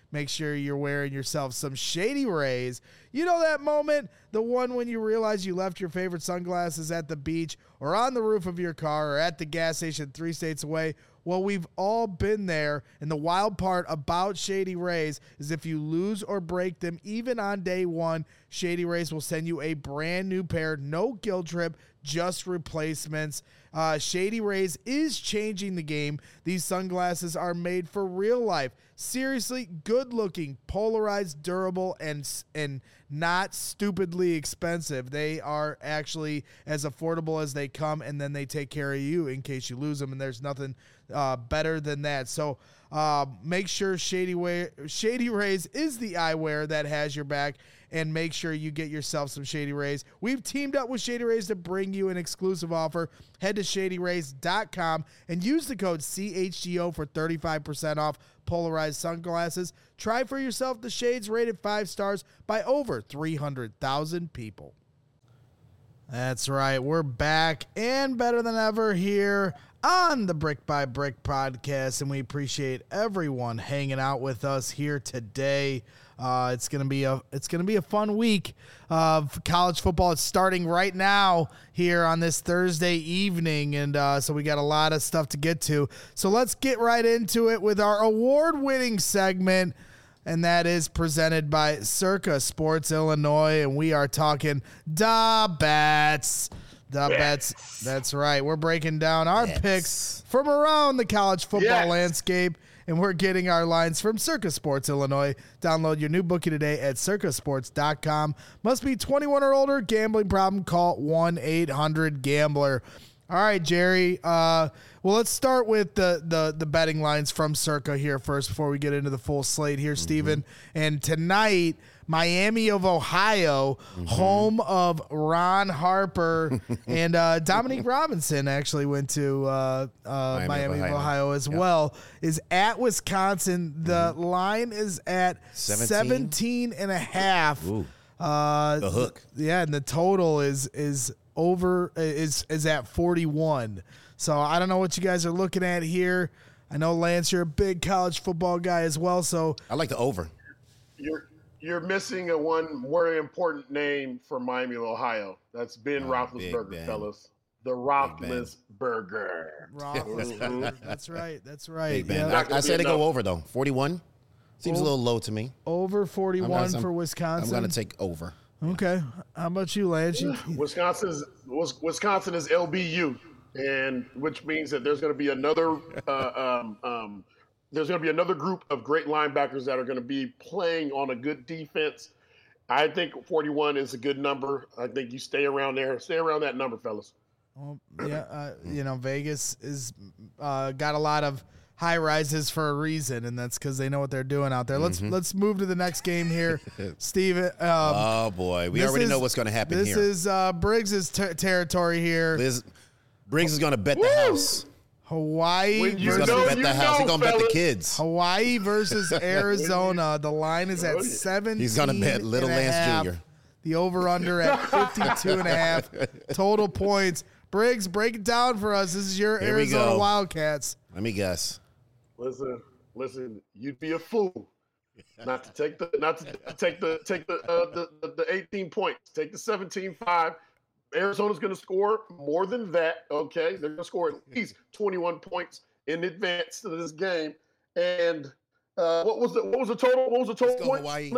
make sure you're wearing yourself some Shady Rays. You know that moment, the one when you realize you left your favorite sunglasses at the beach or on the roof of your car or at the gas station 3 states away? Well, we've all been there, and the wild part about Shady Rays is if you lose or break them, even on day one, Shady Rays will send you a brand new pair, no guilt trip, just replacements. Shady Rays is changing the game. These sunglasses are made for real life. Seriously, good-looking, polarized, durable, and not stupidly expensive. They are actually as affordable as they come, and then they take care of you in case you lose them, and there's nothing better than that. So make sure Shady Rays is the eyewear that has your back, and make sure you get yourself some Shady Rays. We've teamed up with Shady Rays to bring you an exclusive offer. Head to ShadyRays.com and use the code CHGO for 35% off polarized sunglasses. Try for yourself the shades rated 5 stars by over 300,000 people. That's right. We're back and better than ever here on the Brick by Brick podcast, and we appreciate everyone hanging out with us here today. It's gonna be a fun week of college football. It's starting right now here on this Thursday evening, and so we got a lot of stuff to get to. So let's get right into it with our award-winning segment, and that is presented by Circa Sports Illinois, and we are talking da bets. The bets. That's right. We're breaking down our picks from around the college football landscape, and we're getting our lines from Circa Sports Illinois. Download your new bookie today at circasports.com. Must be 21 or older. Gambling problem? Call 1-800-GAMBLER. All right, Jerry. Well, let's start with the betting lines from Circa here first before we get into the full slate here, Steven. And tonight, Miami of Ohio, home of Ron Harper, and Dominique Robinson actually went to Miami of Ohio as well, is at Wisconsin. The line is at 17 and a half. Ooh. The hook. Yeah, and the total is at 41. So I don't know what you guys are looking at here. I know, Lance, you're a big college football guy as well, so I like the over. You're missing one very important name for Miami of Ohio. That's Ben Roethlisberger, fellas. The Roethlisberger. That's right. That's right. Yeah. I say to go over, though. 41 seems a little low to me. Over 41 for Wisconsin. I'm going to take over. Okay. How about you, Lance? Wisconsin is LBU, and which means that there's going to be another group of great linebackers that are going to be playing on a good defense. I think 41 is a good number. I think you stay around there. Stay around that number, fellas. Well, yeah, Vegas is got a lot of high rises for a reason, and that's because they know what they're doing out there. Let's move to the next game here, Steve. Oh boy, we already know what's going to happen here. This is Briggs' territory here. Briggs is going to bet the house. Hawaii. He's going to bet the house. He's going to bet the kids. Hawaii versus Arizona. The line is at 17. He's going to bet Little Lance Jr. The over-under at 52.5 total points. Briggs, break it down for us. This is your Arizona Wildcats. Let me guess. Listen. You'd be a fool not to take the 18 points. Take the 17-5. Arizona's going to score more than that. Okay, they're going to score at least 21 points in advance to this game. And what was the total? What was the total points? Hawaii.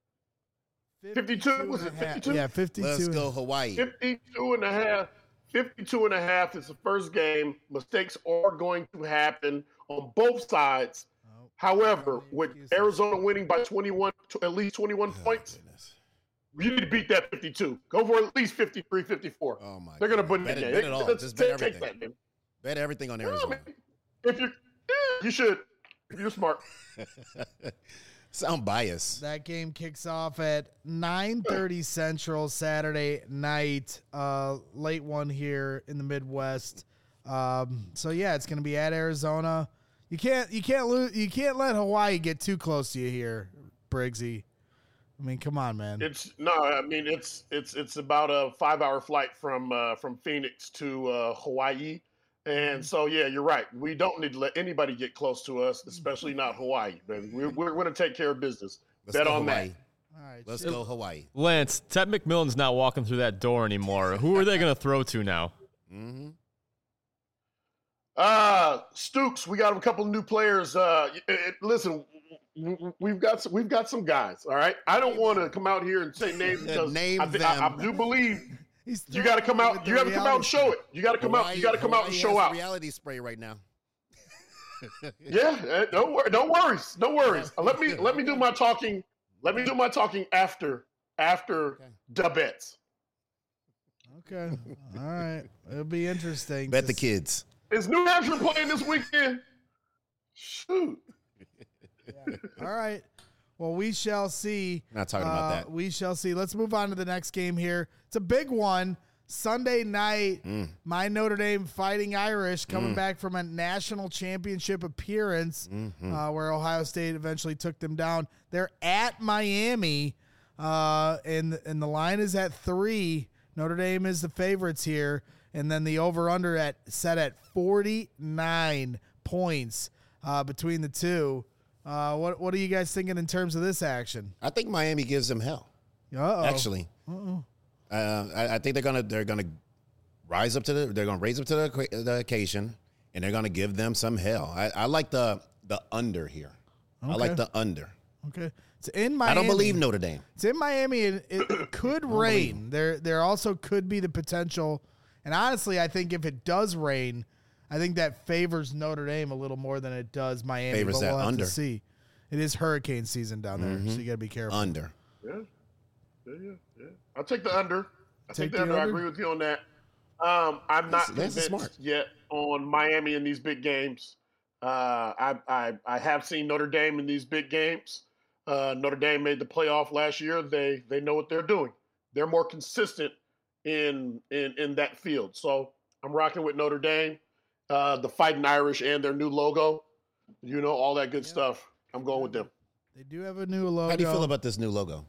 52. Was it 52? Yeah, 52. Let's go Hawaii. 52 and a half. 52 and a half is the first game. Mistakes are going to happen on both sides. However, with Arizona winning by 21, at least 21 points, you need to beat that 52. Go for at least 53, 54. Oh my! They're going to put it in Bet it all. Just bet everything. Bet everything on Arizona. If you should. If you're smart. Sound biased. That game kicks off at 9:30 Central Saturday night. Late one here in the Midwest. So yeah, it's going to be at Arizona. You can't let Hawaii get too close to you here, Briggsy. I mean, come on, man. It's about a 5-hour flight from Phoenix to Hawaii. And so, yeah, you're right. We don't need to let anybody get close to us, especially not Hawaii. Baby. We're going to take care of business. Bet on Hawaii. that. All right, Let's go Hawaii. Lance, Ted McMillan's not walking through that door anymore. Who are they going to throw to now? Mm-hmm. Stoops, we got a couple of new players. Listen, we've got some guys. All right, I don't want to come out here and say names because I do believe you got to come out. You got to come out and show it. You got to come out. You got to come out and show out. Reality spray right now. Yeah, no worries. Let me do my talking. Let me do my talking after the bets. Okay. All right. It'll be interesting. Bet the kids. Is New Hampshire playing this weekend? Shoot. Yeah. All right. Well, we shall see. Not talking about that. We shall see. Let's move on to the next game here. It's a big one. Sunday night, my Notre Dame Fighting Irish coming back from a national championship appearance where Ohio State eventually took them down. They're at Miami, and the line is at 3. Notre Dame is the favorites here, and then the over-under set at 49 points between the two. What are you guys thinking in terms of this action? I think Miami gives them hell. Uh-oh. Actually. Uh-oh. I think they're gonna raise up to the occasion, and they're gonna give them some hell. I like the under here. Okay. I like the under. Okay, it's in Miami. I don't believe Notre Dame. It's in Miami, and it could rain. There also could be the potential, and honestly, I think if it does rain, I think that favors Notre Dame a little more than it does Miami. Favors but that we'll have under. to see. It is hurricane season down there, so you got to be careful. Under. Yeah. I'll take the under. I agree with you on that. I'm not convinced yet on Miami in these big games. I have seen Notre Dame in these big games. Notre Dame made the playoff last year. They know what they're doing. They're more consistent in that field. So I'm rocking with Notre Dame, the Fighting Irish, and their new logo. All that good stuff. I'm going with them. They do have a new logo. How do you feel about this new logo?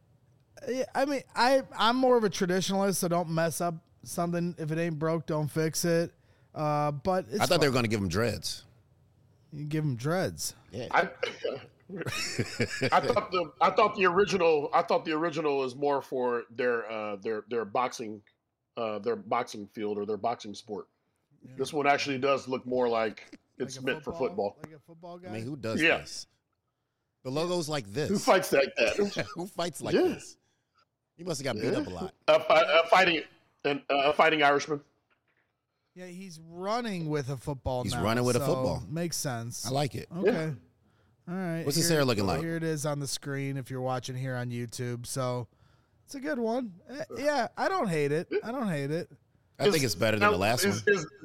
I mean, I'm more of a traditionalist, so don't mess up something. If it ain't broke, don't fix it. But I thought they were going to give them dreads. You give them dreads. Yeah. I thought the original is more for their boxing field or their boxing sport. Yeah. This one actually does look more like it's meant for football. Like a football guy. I mean, who does this? The logo's like this. Who fights like that? Who fights like this? You must have got beat up a lot. A fighting Irishman. Yeah, he's running with a football. He's running with a football. Makes sense. I like it. Okay. Yeah. All right. What's his hair looking like? Here it is on the screen if you're watching here on YouTube. So it's a good one. Yeah, I don't hate it. I think it's better than the last one.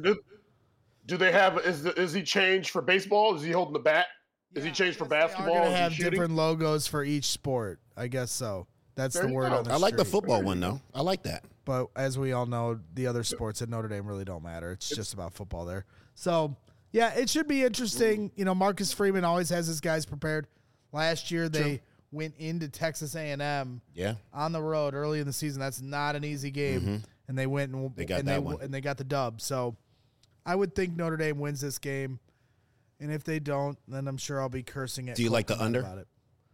Do they have? Is he changed for baseball? Is he holding the bat? Is he changed for basketball? They're gonna have different logos for each sport. I guess so. That's the word on the I like the street. football one though. I like that. But as we all know, the other sports at Notre Dame really don't matter. It's just about football there. So yeah, it should be interesting. Marcus Freeman always has his guys prepared. Last year they went into Texas A&M on the road early in the season. That's not an easy game, and they went and they got the dub. So I would think Notre Dame wins this game. And if they don't, then I'm sure I'll be cursing at. Do you like the under? About it.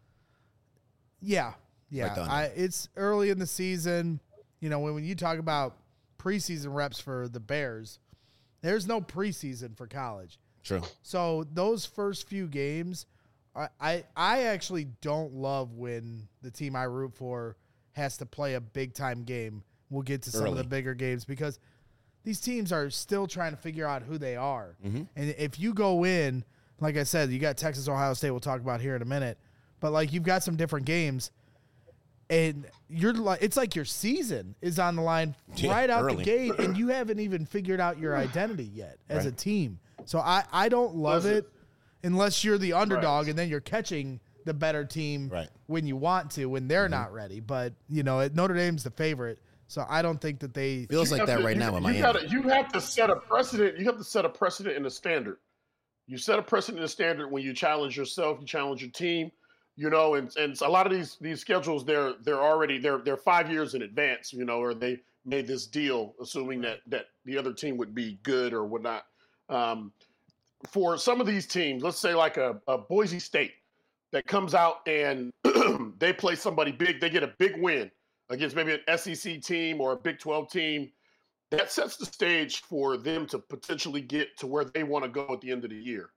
Yeah. Like the under. It's early in the season. When you talk about preseason reps for the Bears, there's no preseason for college. True. So those first few games, I actually don't love when the team I root for has to play a big time game. We'll get to some of the bigger games because these teams are still trying to figure out who they are. And if you go in, like I said, you got Texas, Ohio State, we'll talk about here in a minute, but you've got some different games and it's like your season is on the line right out the gate and you haven't even figured out your identity yet as a team. So I don't love it unless you're the underdog and then you're catching the better team when you want to, when they're not ready. But, Notre Dame's the favorite. So I don't think that they feels like that right now in Miami. You have to set a precedent. You have to set a precedent and a standard. You set a precedent and a standard when you challenge yourself, you challenge your team, and a lot of these schedules they're 5 years in advance, or made this deal, assuming that the other team would be good or whatnot. For some of these teams, let's say like a Boise State that comes out and they play somebody big, they get a big win against maybe an SEC team or a Big 12 team, that sets the stage for them to potentially get to where they want to go at the end of the year.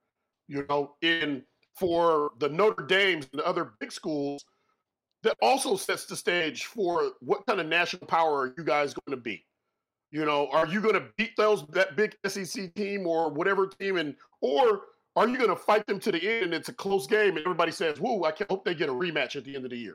For the Notre Dames and the other big schools, that also sets the stage for what kind of national power are you guys going to be? Are you going to beat that big SEC team or whatever team, or are you going to fight them to the end and it's a close game and everybody says, "Whoa, I hope they get a rematch at the end of the year."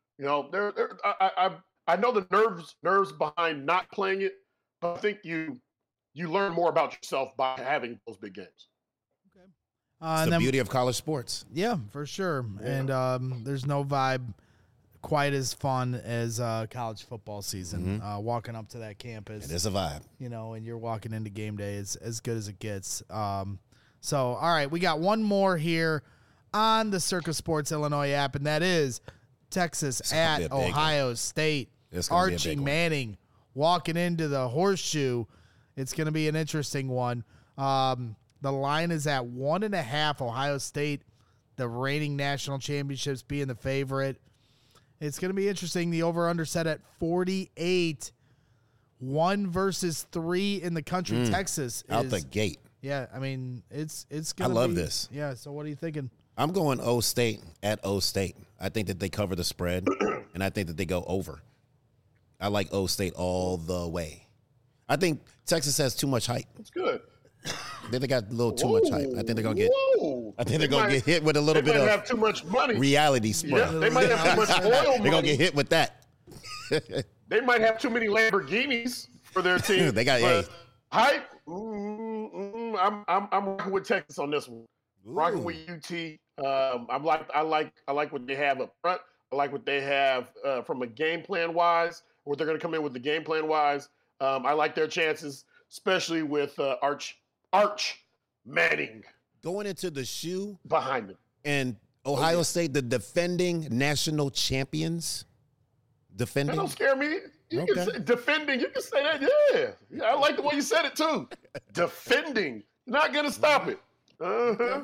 I know the nerves behind not playing it, but I think you learn more about yourself by having those big games. It's the beauty of college sports. Yeah, for sure. Yeah. And there's no vibe quite as fun as college football season. Walking up to that campus. It is a vibe. And you're walking into game day. It's as good as it gets. So, all right, we got one more here on the Circa Sports Illinois app, and that is Texas at Ohio State. Archie Manning walking into the Horseshoe. It's going to be an interesting one. The line is at 1.5. Ohio State, the reigning national championships, being the favorite. It's going to be interesting. The over-under set at 48. 1 versus 3 in the country. Texas out the gate. Yeah, I mean, it's going to be. I love this. Yeah, so what are you thinking? I'm going O State at O State. I think that they cover the spread, and I think that they go over. I like O State all the way. I think Texas has too much hype. That's good. I think they got a little too much hype. I think they're gonna get hit with a little bit of have too much money. Reality spread. Yeah, they might have too much oil money. They're gonna get hit with that. They might have too many Lamborghinis for their team. They got hype. I'm rocking with Texas on this one. Rocking with UT. I like what they have up front. I like what they have from a game plan wise. What they're going to come in with the game plan wise. I like their chances, especially with Arch Manning going into the shoe behind them. And Ohio State, the defending national champions. Defending. That don't scare me. You can say defending. You can say that. Yeah. I like the way you said it too. Defending. Not going to stop it. Uh-huh.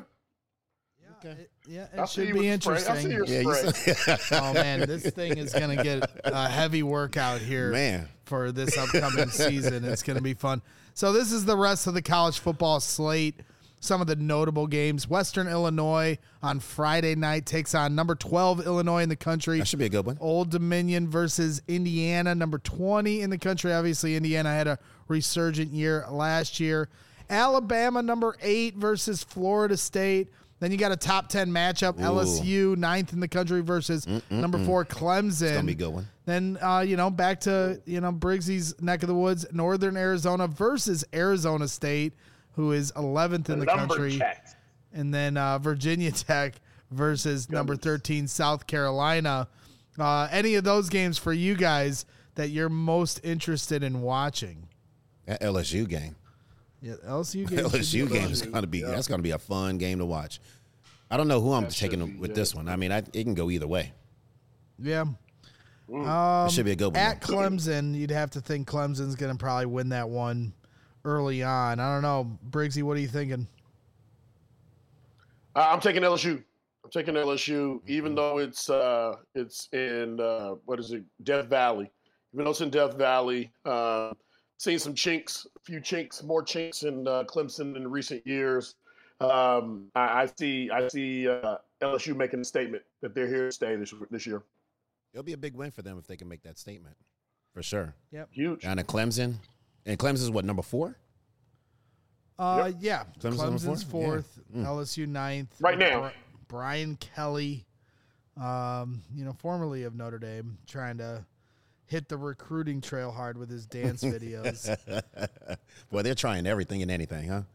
It should be interesting. I see your spray. Oh, man, this thing is going to get a heavy workout here for this upcoming season. It's going to be fun. So this is the rest of the college football slate. Some of the notable games. Western Illinois on Friday night takes on number 12 Illinois in the country. That should be a good one. Old Dominion versus Indiana, number 20 in the country. Obviously, Indiana had a resurgent year last year. Alabama, number 8 versus Florida State. Then you got a top 10 matchup, LSU, 9th in the country versus number 4, Clemson. It's going to be a good one. Then, back to, Briggsy's neck of the woods, Northern Arizona versus Arizona State, who is 11th in the country. And then Virginia Tech versus number 13, South Carolina. Any of those games for you guys that you're most interested in watching? That LSU game. Yeah, LSU game is going to be that's going to be a fun game to watch. I don't know who I'm taking with this one. I mean, it can go either way. Yeah. It should be a good one. At Clemson, you'd have to think Clemson's going to probably win that one early on. I don't know. Briggsy, what are you thinking? I'm taking LSU. Even though it's in Death Valley. Even though it's in Death Valley, seen some more chinks in Clemson in recent years. I see LSU making a statement that they're here to stay this year. It'll be a big win for them if they can make that statement, for sure. Yep, huge. Down at Clemson, and Clemson's what, number 4? Yeah. Clemson's 4th, LSU 9th. Right now, Brian Kelly, formerly of Notre Dame, trying to hit the recruiting trail hard with his dance videos. Boy, they're trying everything and anything, huh?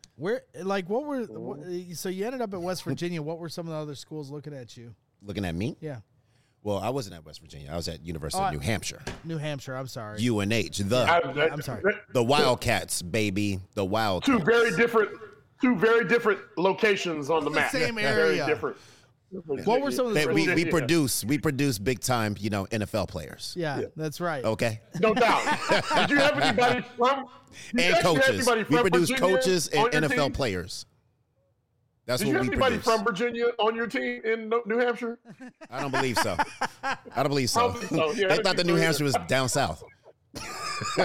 So you ended up at West Virginia. What were some of the other schools looking at you? Looking at me? Yeah. Well, I wasn't at West Virginia. I was at University of New Hampshire. New Hampshire, I'm sorry. UNH. I'm sorry. The Wildcats, baby. The Wildcats. Two very different locations on the map. Same area. Very different. What were some of the we produce big time, NFL players. Yeah, that's right. Okay. No doubt. Did you have anybody from and coaches? We produce Virginia coaches and NFL team? players. That's Did what you we have anybody produce. from Virginia on your team in New Hampshire? I don't believe so. I don't believe so. Yeah, They thought that New Hampshire was down south. Well,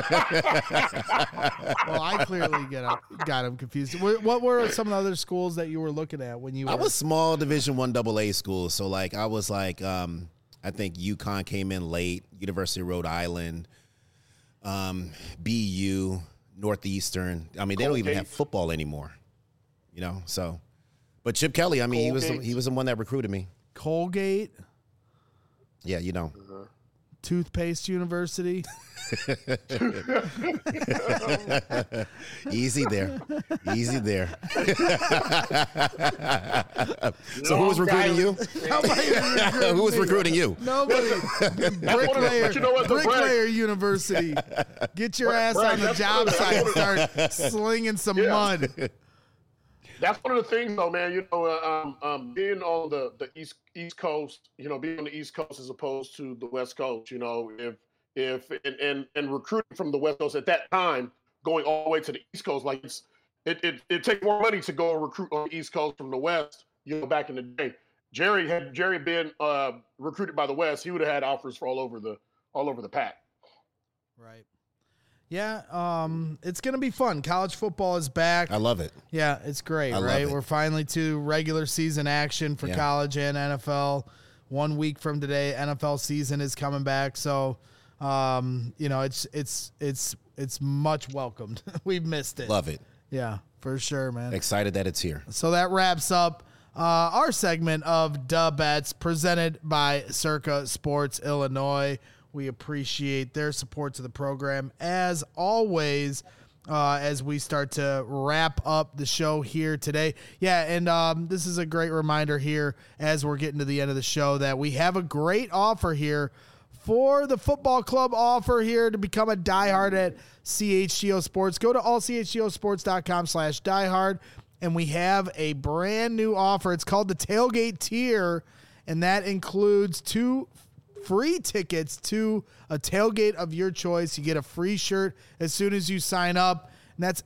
I clearly got him confused. What were some of the other schools that you were looking at when you were? I was small Division I AA schools, so I was I think UConn came in late, University of Rhode Island, BU, Northeastern. I mean, they don't even have football anymore, So, but Chip Kelly, I mean, he was the one that recruited me. Colgate. Yeah, Toothpaste University. Easy there. So who was recruiting you? Who was recruiting you? Nobody. Bricklayer University. Get your ass on the job site and start slinging some mud. That's one of the things, though, man. Being on the East Coast, being on the East Coast as opposed to the West Coast, if recruiting from the West Coast at that time, going all the way to the East Coast, it takes more money to go and recruit on the East Coast from the West. Back in the day, Jerry been recruited by the West, he would have had offers for all over the pack. Right. Yeah, it's going to be fun. College football is back. I love it. Yeah, it's great, right? We're finally to regular season action for college and NFL. 1 week from today, NFL season is coming back. So, it's much welcomed. We've missed it. Love it. Yeah, for sure, man. Excited that it's here. So that wraps up our segment of Duh Bets presented by Circa Sports Illinois. We appreciate their support to the program as always as we start to wrap up the show here today. Yeah, and this is a great reminder here as we're getting to the end of the show that we have a great offer here for the football club offer here to become a diehard at CHGO Sports. Go to allchgosports.com/diehard, and we have a brand new offer. It's called the Tailgate Tier, and that includes 2 free tickets to a tailgate of your choice. You get a free shirt as soon as you sign up, and that's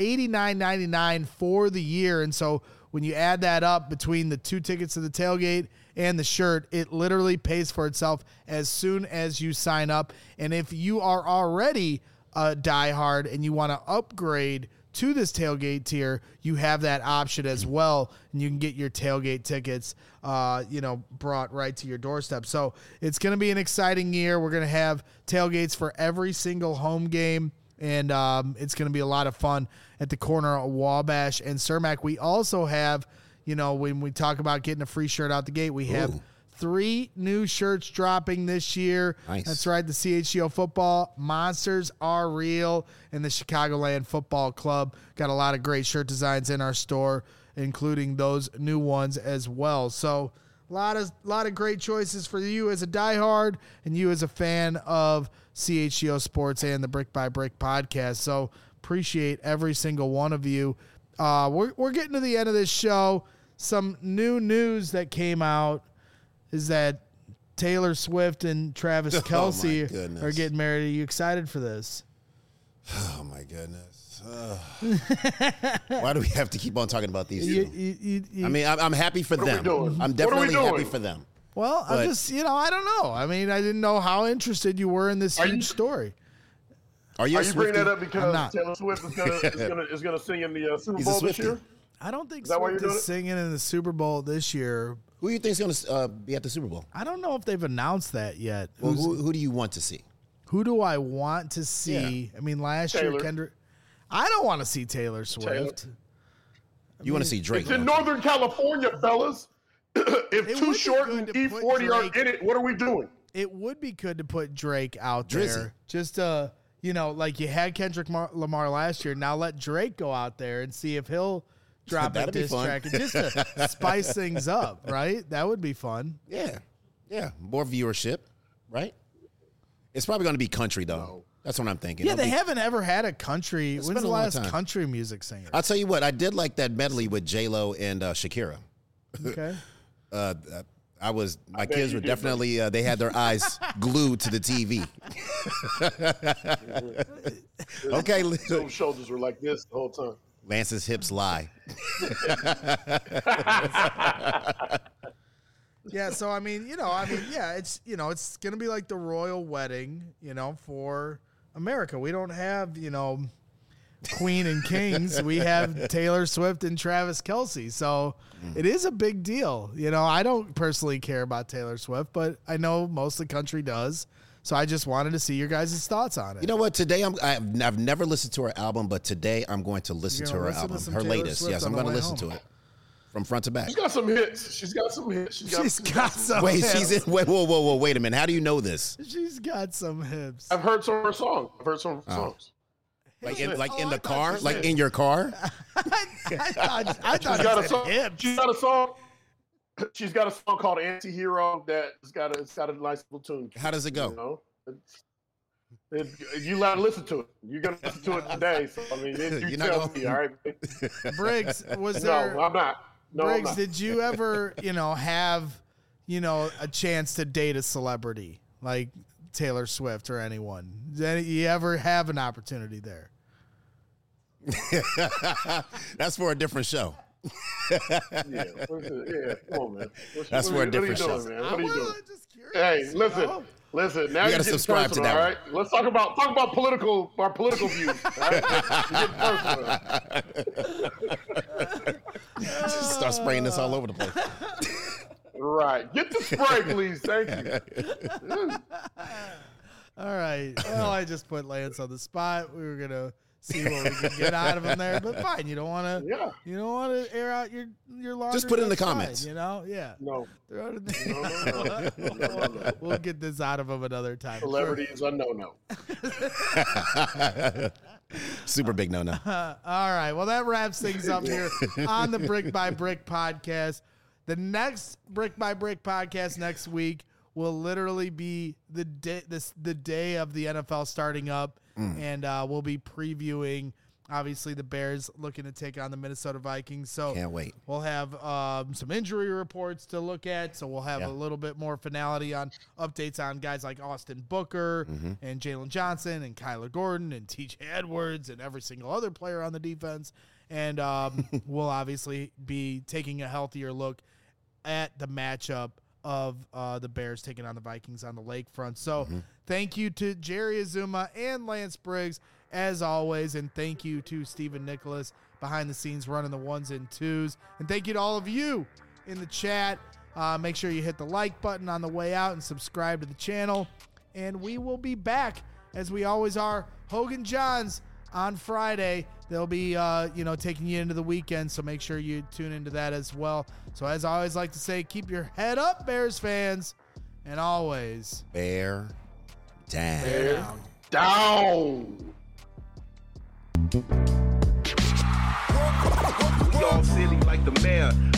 $89.99 for the year. And so when you add that up between the 2 tickets to the tailgate and the shirt, it literally pays for itself as soon as you sign up. And if you are already a diehard and you want to upgrade to this tailgate tier, you have that option as well, and you can get your tailgate tickets, brought right to your doorstep. So it's going to be an exciting year. We're going to have tailgates for every single home game, and it's going to be a lot of fun at the corner of Wabash and Cermak. We also have, when we talk about getting a free shirt out the gate, we have 3 new shirts dropping this year. Nice. That's right. The CHGO Football Monsters Are Real and the Chicagoland Football Club. Got a lot of great shirt designs in our store, including those new ones as well. So a lot of great choices for you as a diehard and you as a fan of CHGO Sports and the Brick by Brick podcast. So appreciate every single one of you. We're getting to the end of this show. Some new news that came out is that Taylor Swift and Travis Kelce are getting married. Are you excited for this? Oh, my goodness. Why do we have to keep on talking about these two? I mean, I'm happy for them. I'm definitely happy for them. Well, I'm just, I don't know. I mean, I didn't know how interested you were in this huge story. Are you bringing that up because Taylor Swift is gonna sing in the Super Bowl this year? I don't think Swift is singing in the Super Bowl this year. Who do you think is going to be at the Super Bowl? I don't know if they've announced that yet. Well, who do you want to see? Who do I want to see? Yeah. I mean, last year, Kendrick. I don't want to see Taylor Swift. You want to see Drake? It's in Northern California, fellas. If Too Short and E40 are in it, what are we doing? It would be good to put Drake out there. Just like you had Kendrick Lamar last year. Now let Drake go out there and see if he'll drop a diss track just to spice things up, right? That would be fun. Yeah. More viewership, right? It's probably going to be country, though. No. That's what I'm thinking. Yeah, they haven't ever had a country. When's the last country music singer? I'll tell you what. I did like that medley with J-Lo and Shakira. Okay. My kids were definitely, they had their eyes glued to the TV. Okay. Those shoulders were like this the whole time. Lance's hips lie. Yeah, so it's it's gonna be like the royal wedding, for America. We don't have, Queen and Kings. We have Taylor Swift and Travis Kelce. So it is a big deal. I don't personally care about Taylor Swift, but I know most of the country does. So I just wanted to see your guys' thoughts on it. You know what? Today I've never listened to her album, but today I'm going to listen to her album, her latest. Swift, yes, I'm going to listen to it from front to back. She's got some hits. She's got some hits. Wait, whoa, wait a minute. How do you know this? She's got some hips. I've heard some of her songs. Songs. Like in the car? Like in your car? I thought she's got a song. Hips. She's got a song called Anti-Hero it's got a nice little tune. How does it go? You let her listen to it. You're gonna listen to it today. So I mean, you tell me, all right? Briggs, was there? No, I'm not. No, Briggs, I'm not. did you ever, have, a chance to date a celebrity like Taylor Swift or anyone? Did you ever have an opportunity there? That's for a different show. Yeah, come on, man. That's for a different show. What are you doing? Just curious, Hey, listen. Now you gotta subscribe to that. All right, let's talk about our political views. All right? Just start spraying this all over the place. Right, get the spray, please. Thank you. All right. Well, I just put Lance on the spot. We were gonna see what we could get out of him there, but fine. You don't want to. Yeah. You don't want to air out your laundry. Just put it in the fine, comments. Yeah. No. Throw it in no. We'll get this out of him another time. Celebrity is a no. Super big no. All right. Well, that wraps things up here on the Brick by Brick podcast. The next Brick by Brick podcast next week will literally be the day of the NFL starting up, and we'll be previewing, obviously, the Bears looking to take on the Minnesota Vikings. So can't wait. We'll have some injury reports to look at, so we'll have a little bit more finality on updates on guys like Austin Booker and Jalen Johnson and Kyler Gordon and TJ Edwards and every single other player on the defense. And we'll obviously be taking a healthier look at the matchup of the Bears taking on the Vikings on the lakefront. So thank you to Jerry Azuma and Lance Briggs, as always, and thank you to Stephen Nicholas behind the scenes running the ones and twos. And thank you to all of you in the chat. Make sure you hit the like button on the way out and subscribe to the channel. And we will be back, as we always are, Hogan Johns on Friday. They'll be, taking you into the weekend, so make sure you tune into that as well. So as I always like to say, keep your head up, Bears fans, and always Bear down. Bear down. We all silly like the mayor.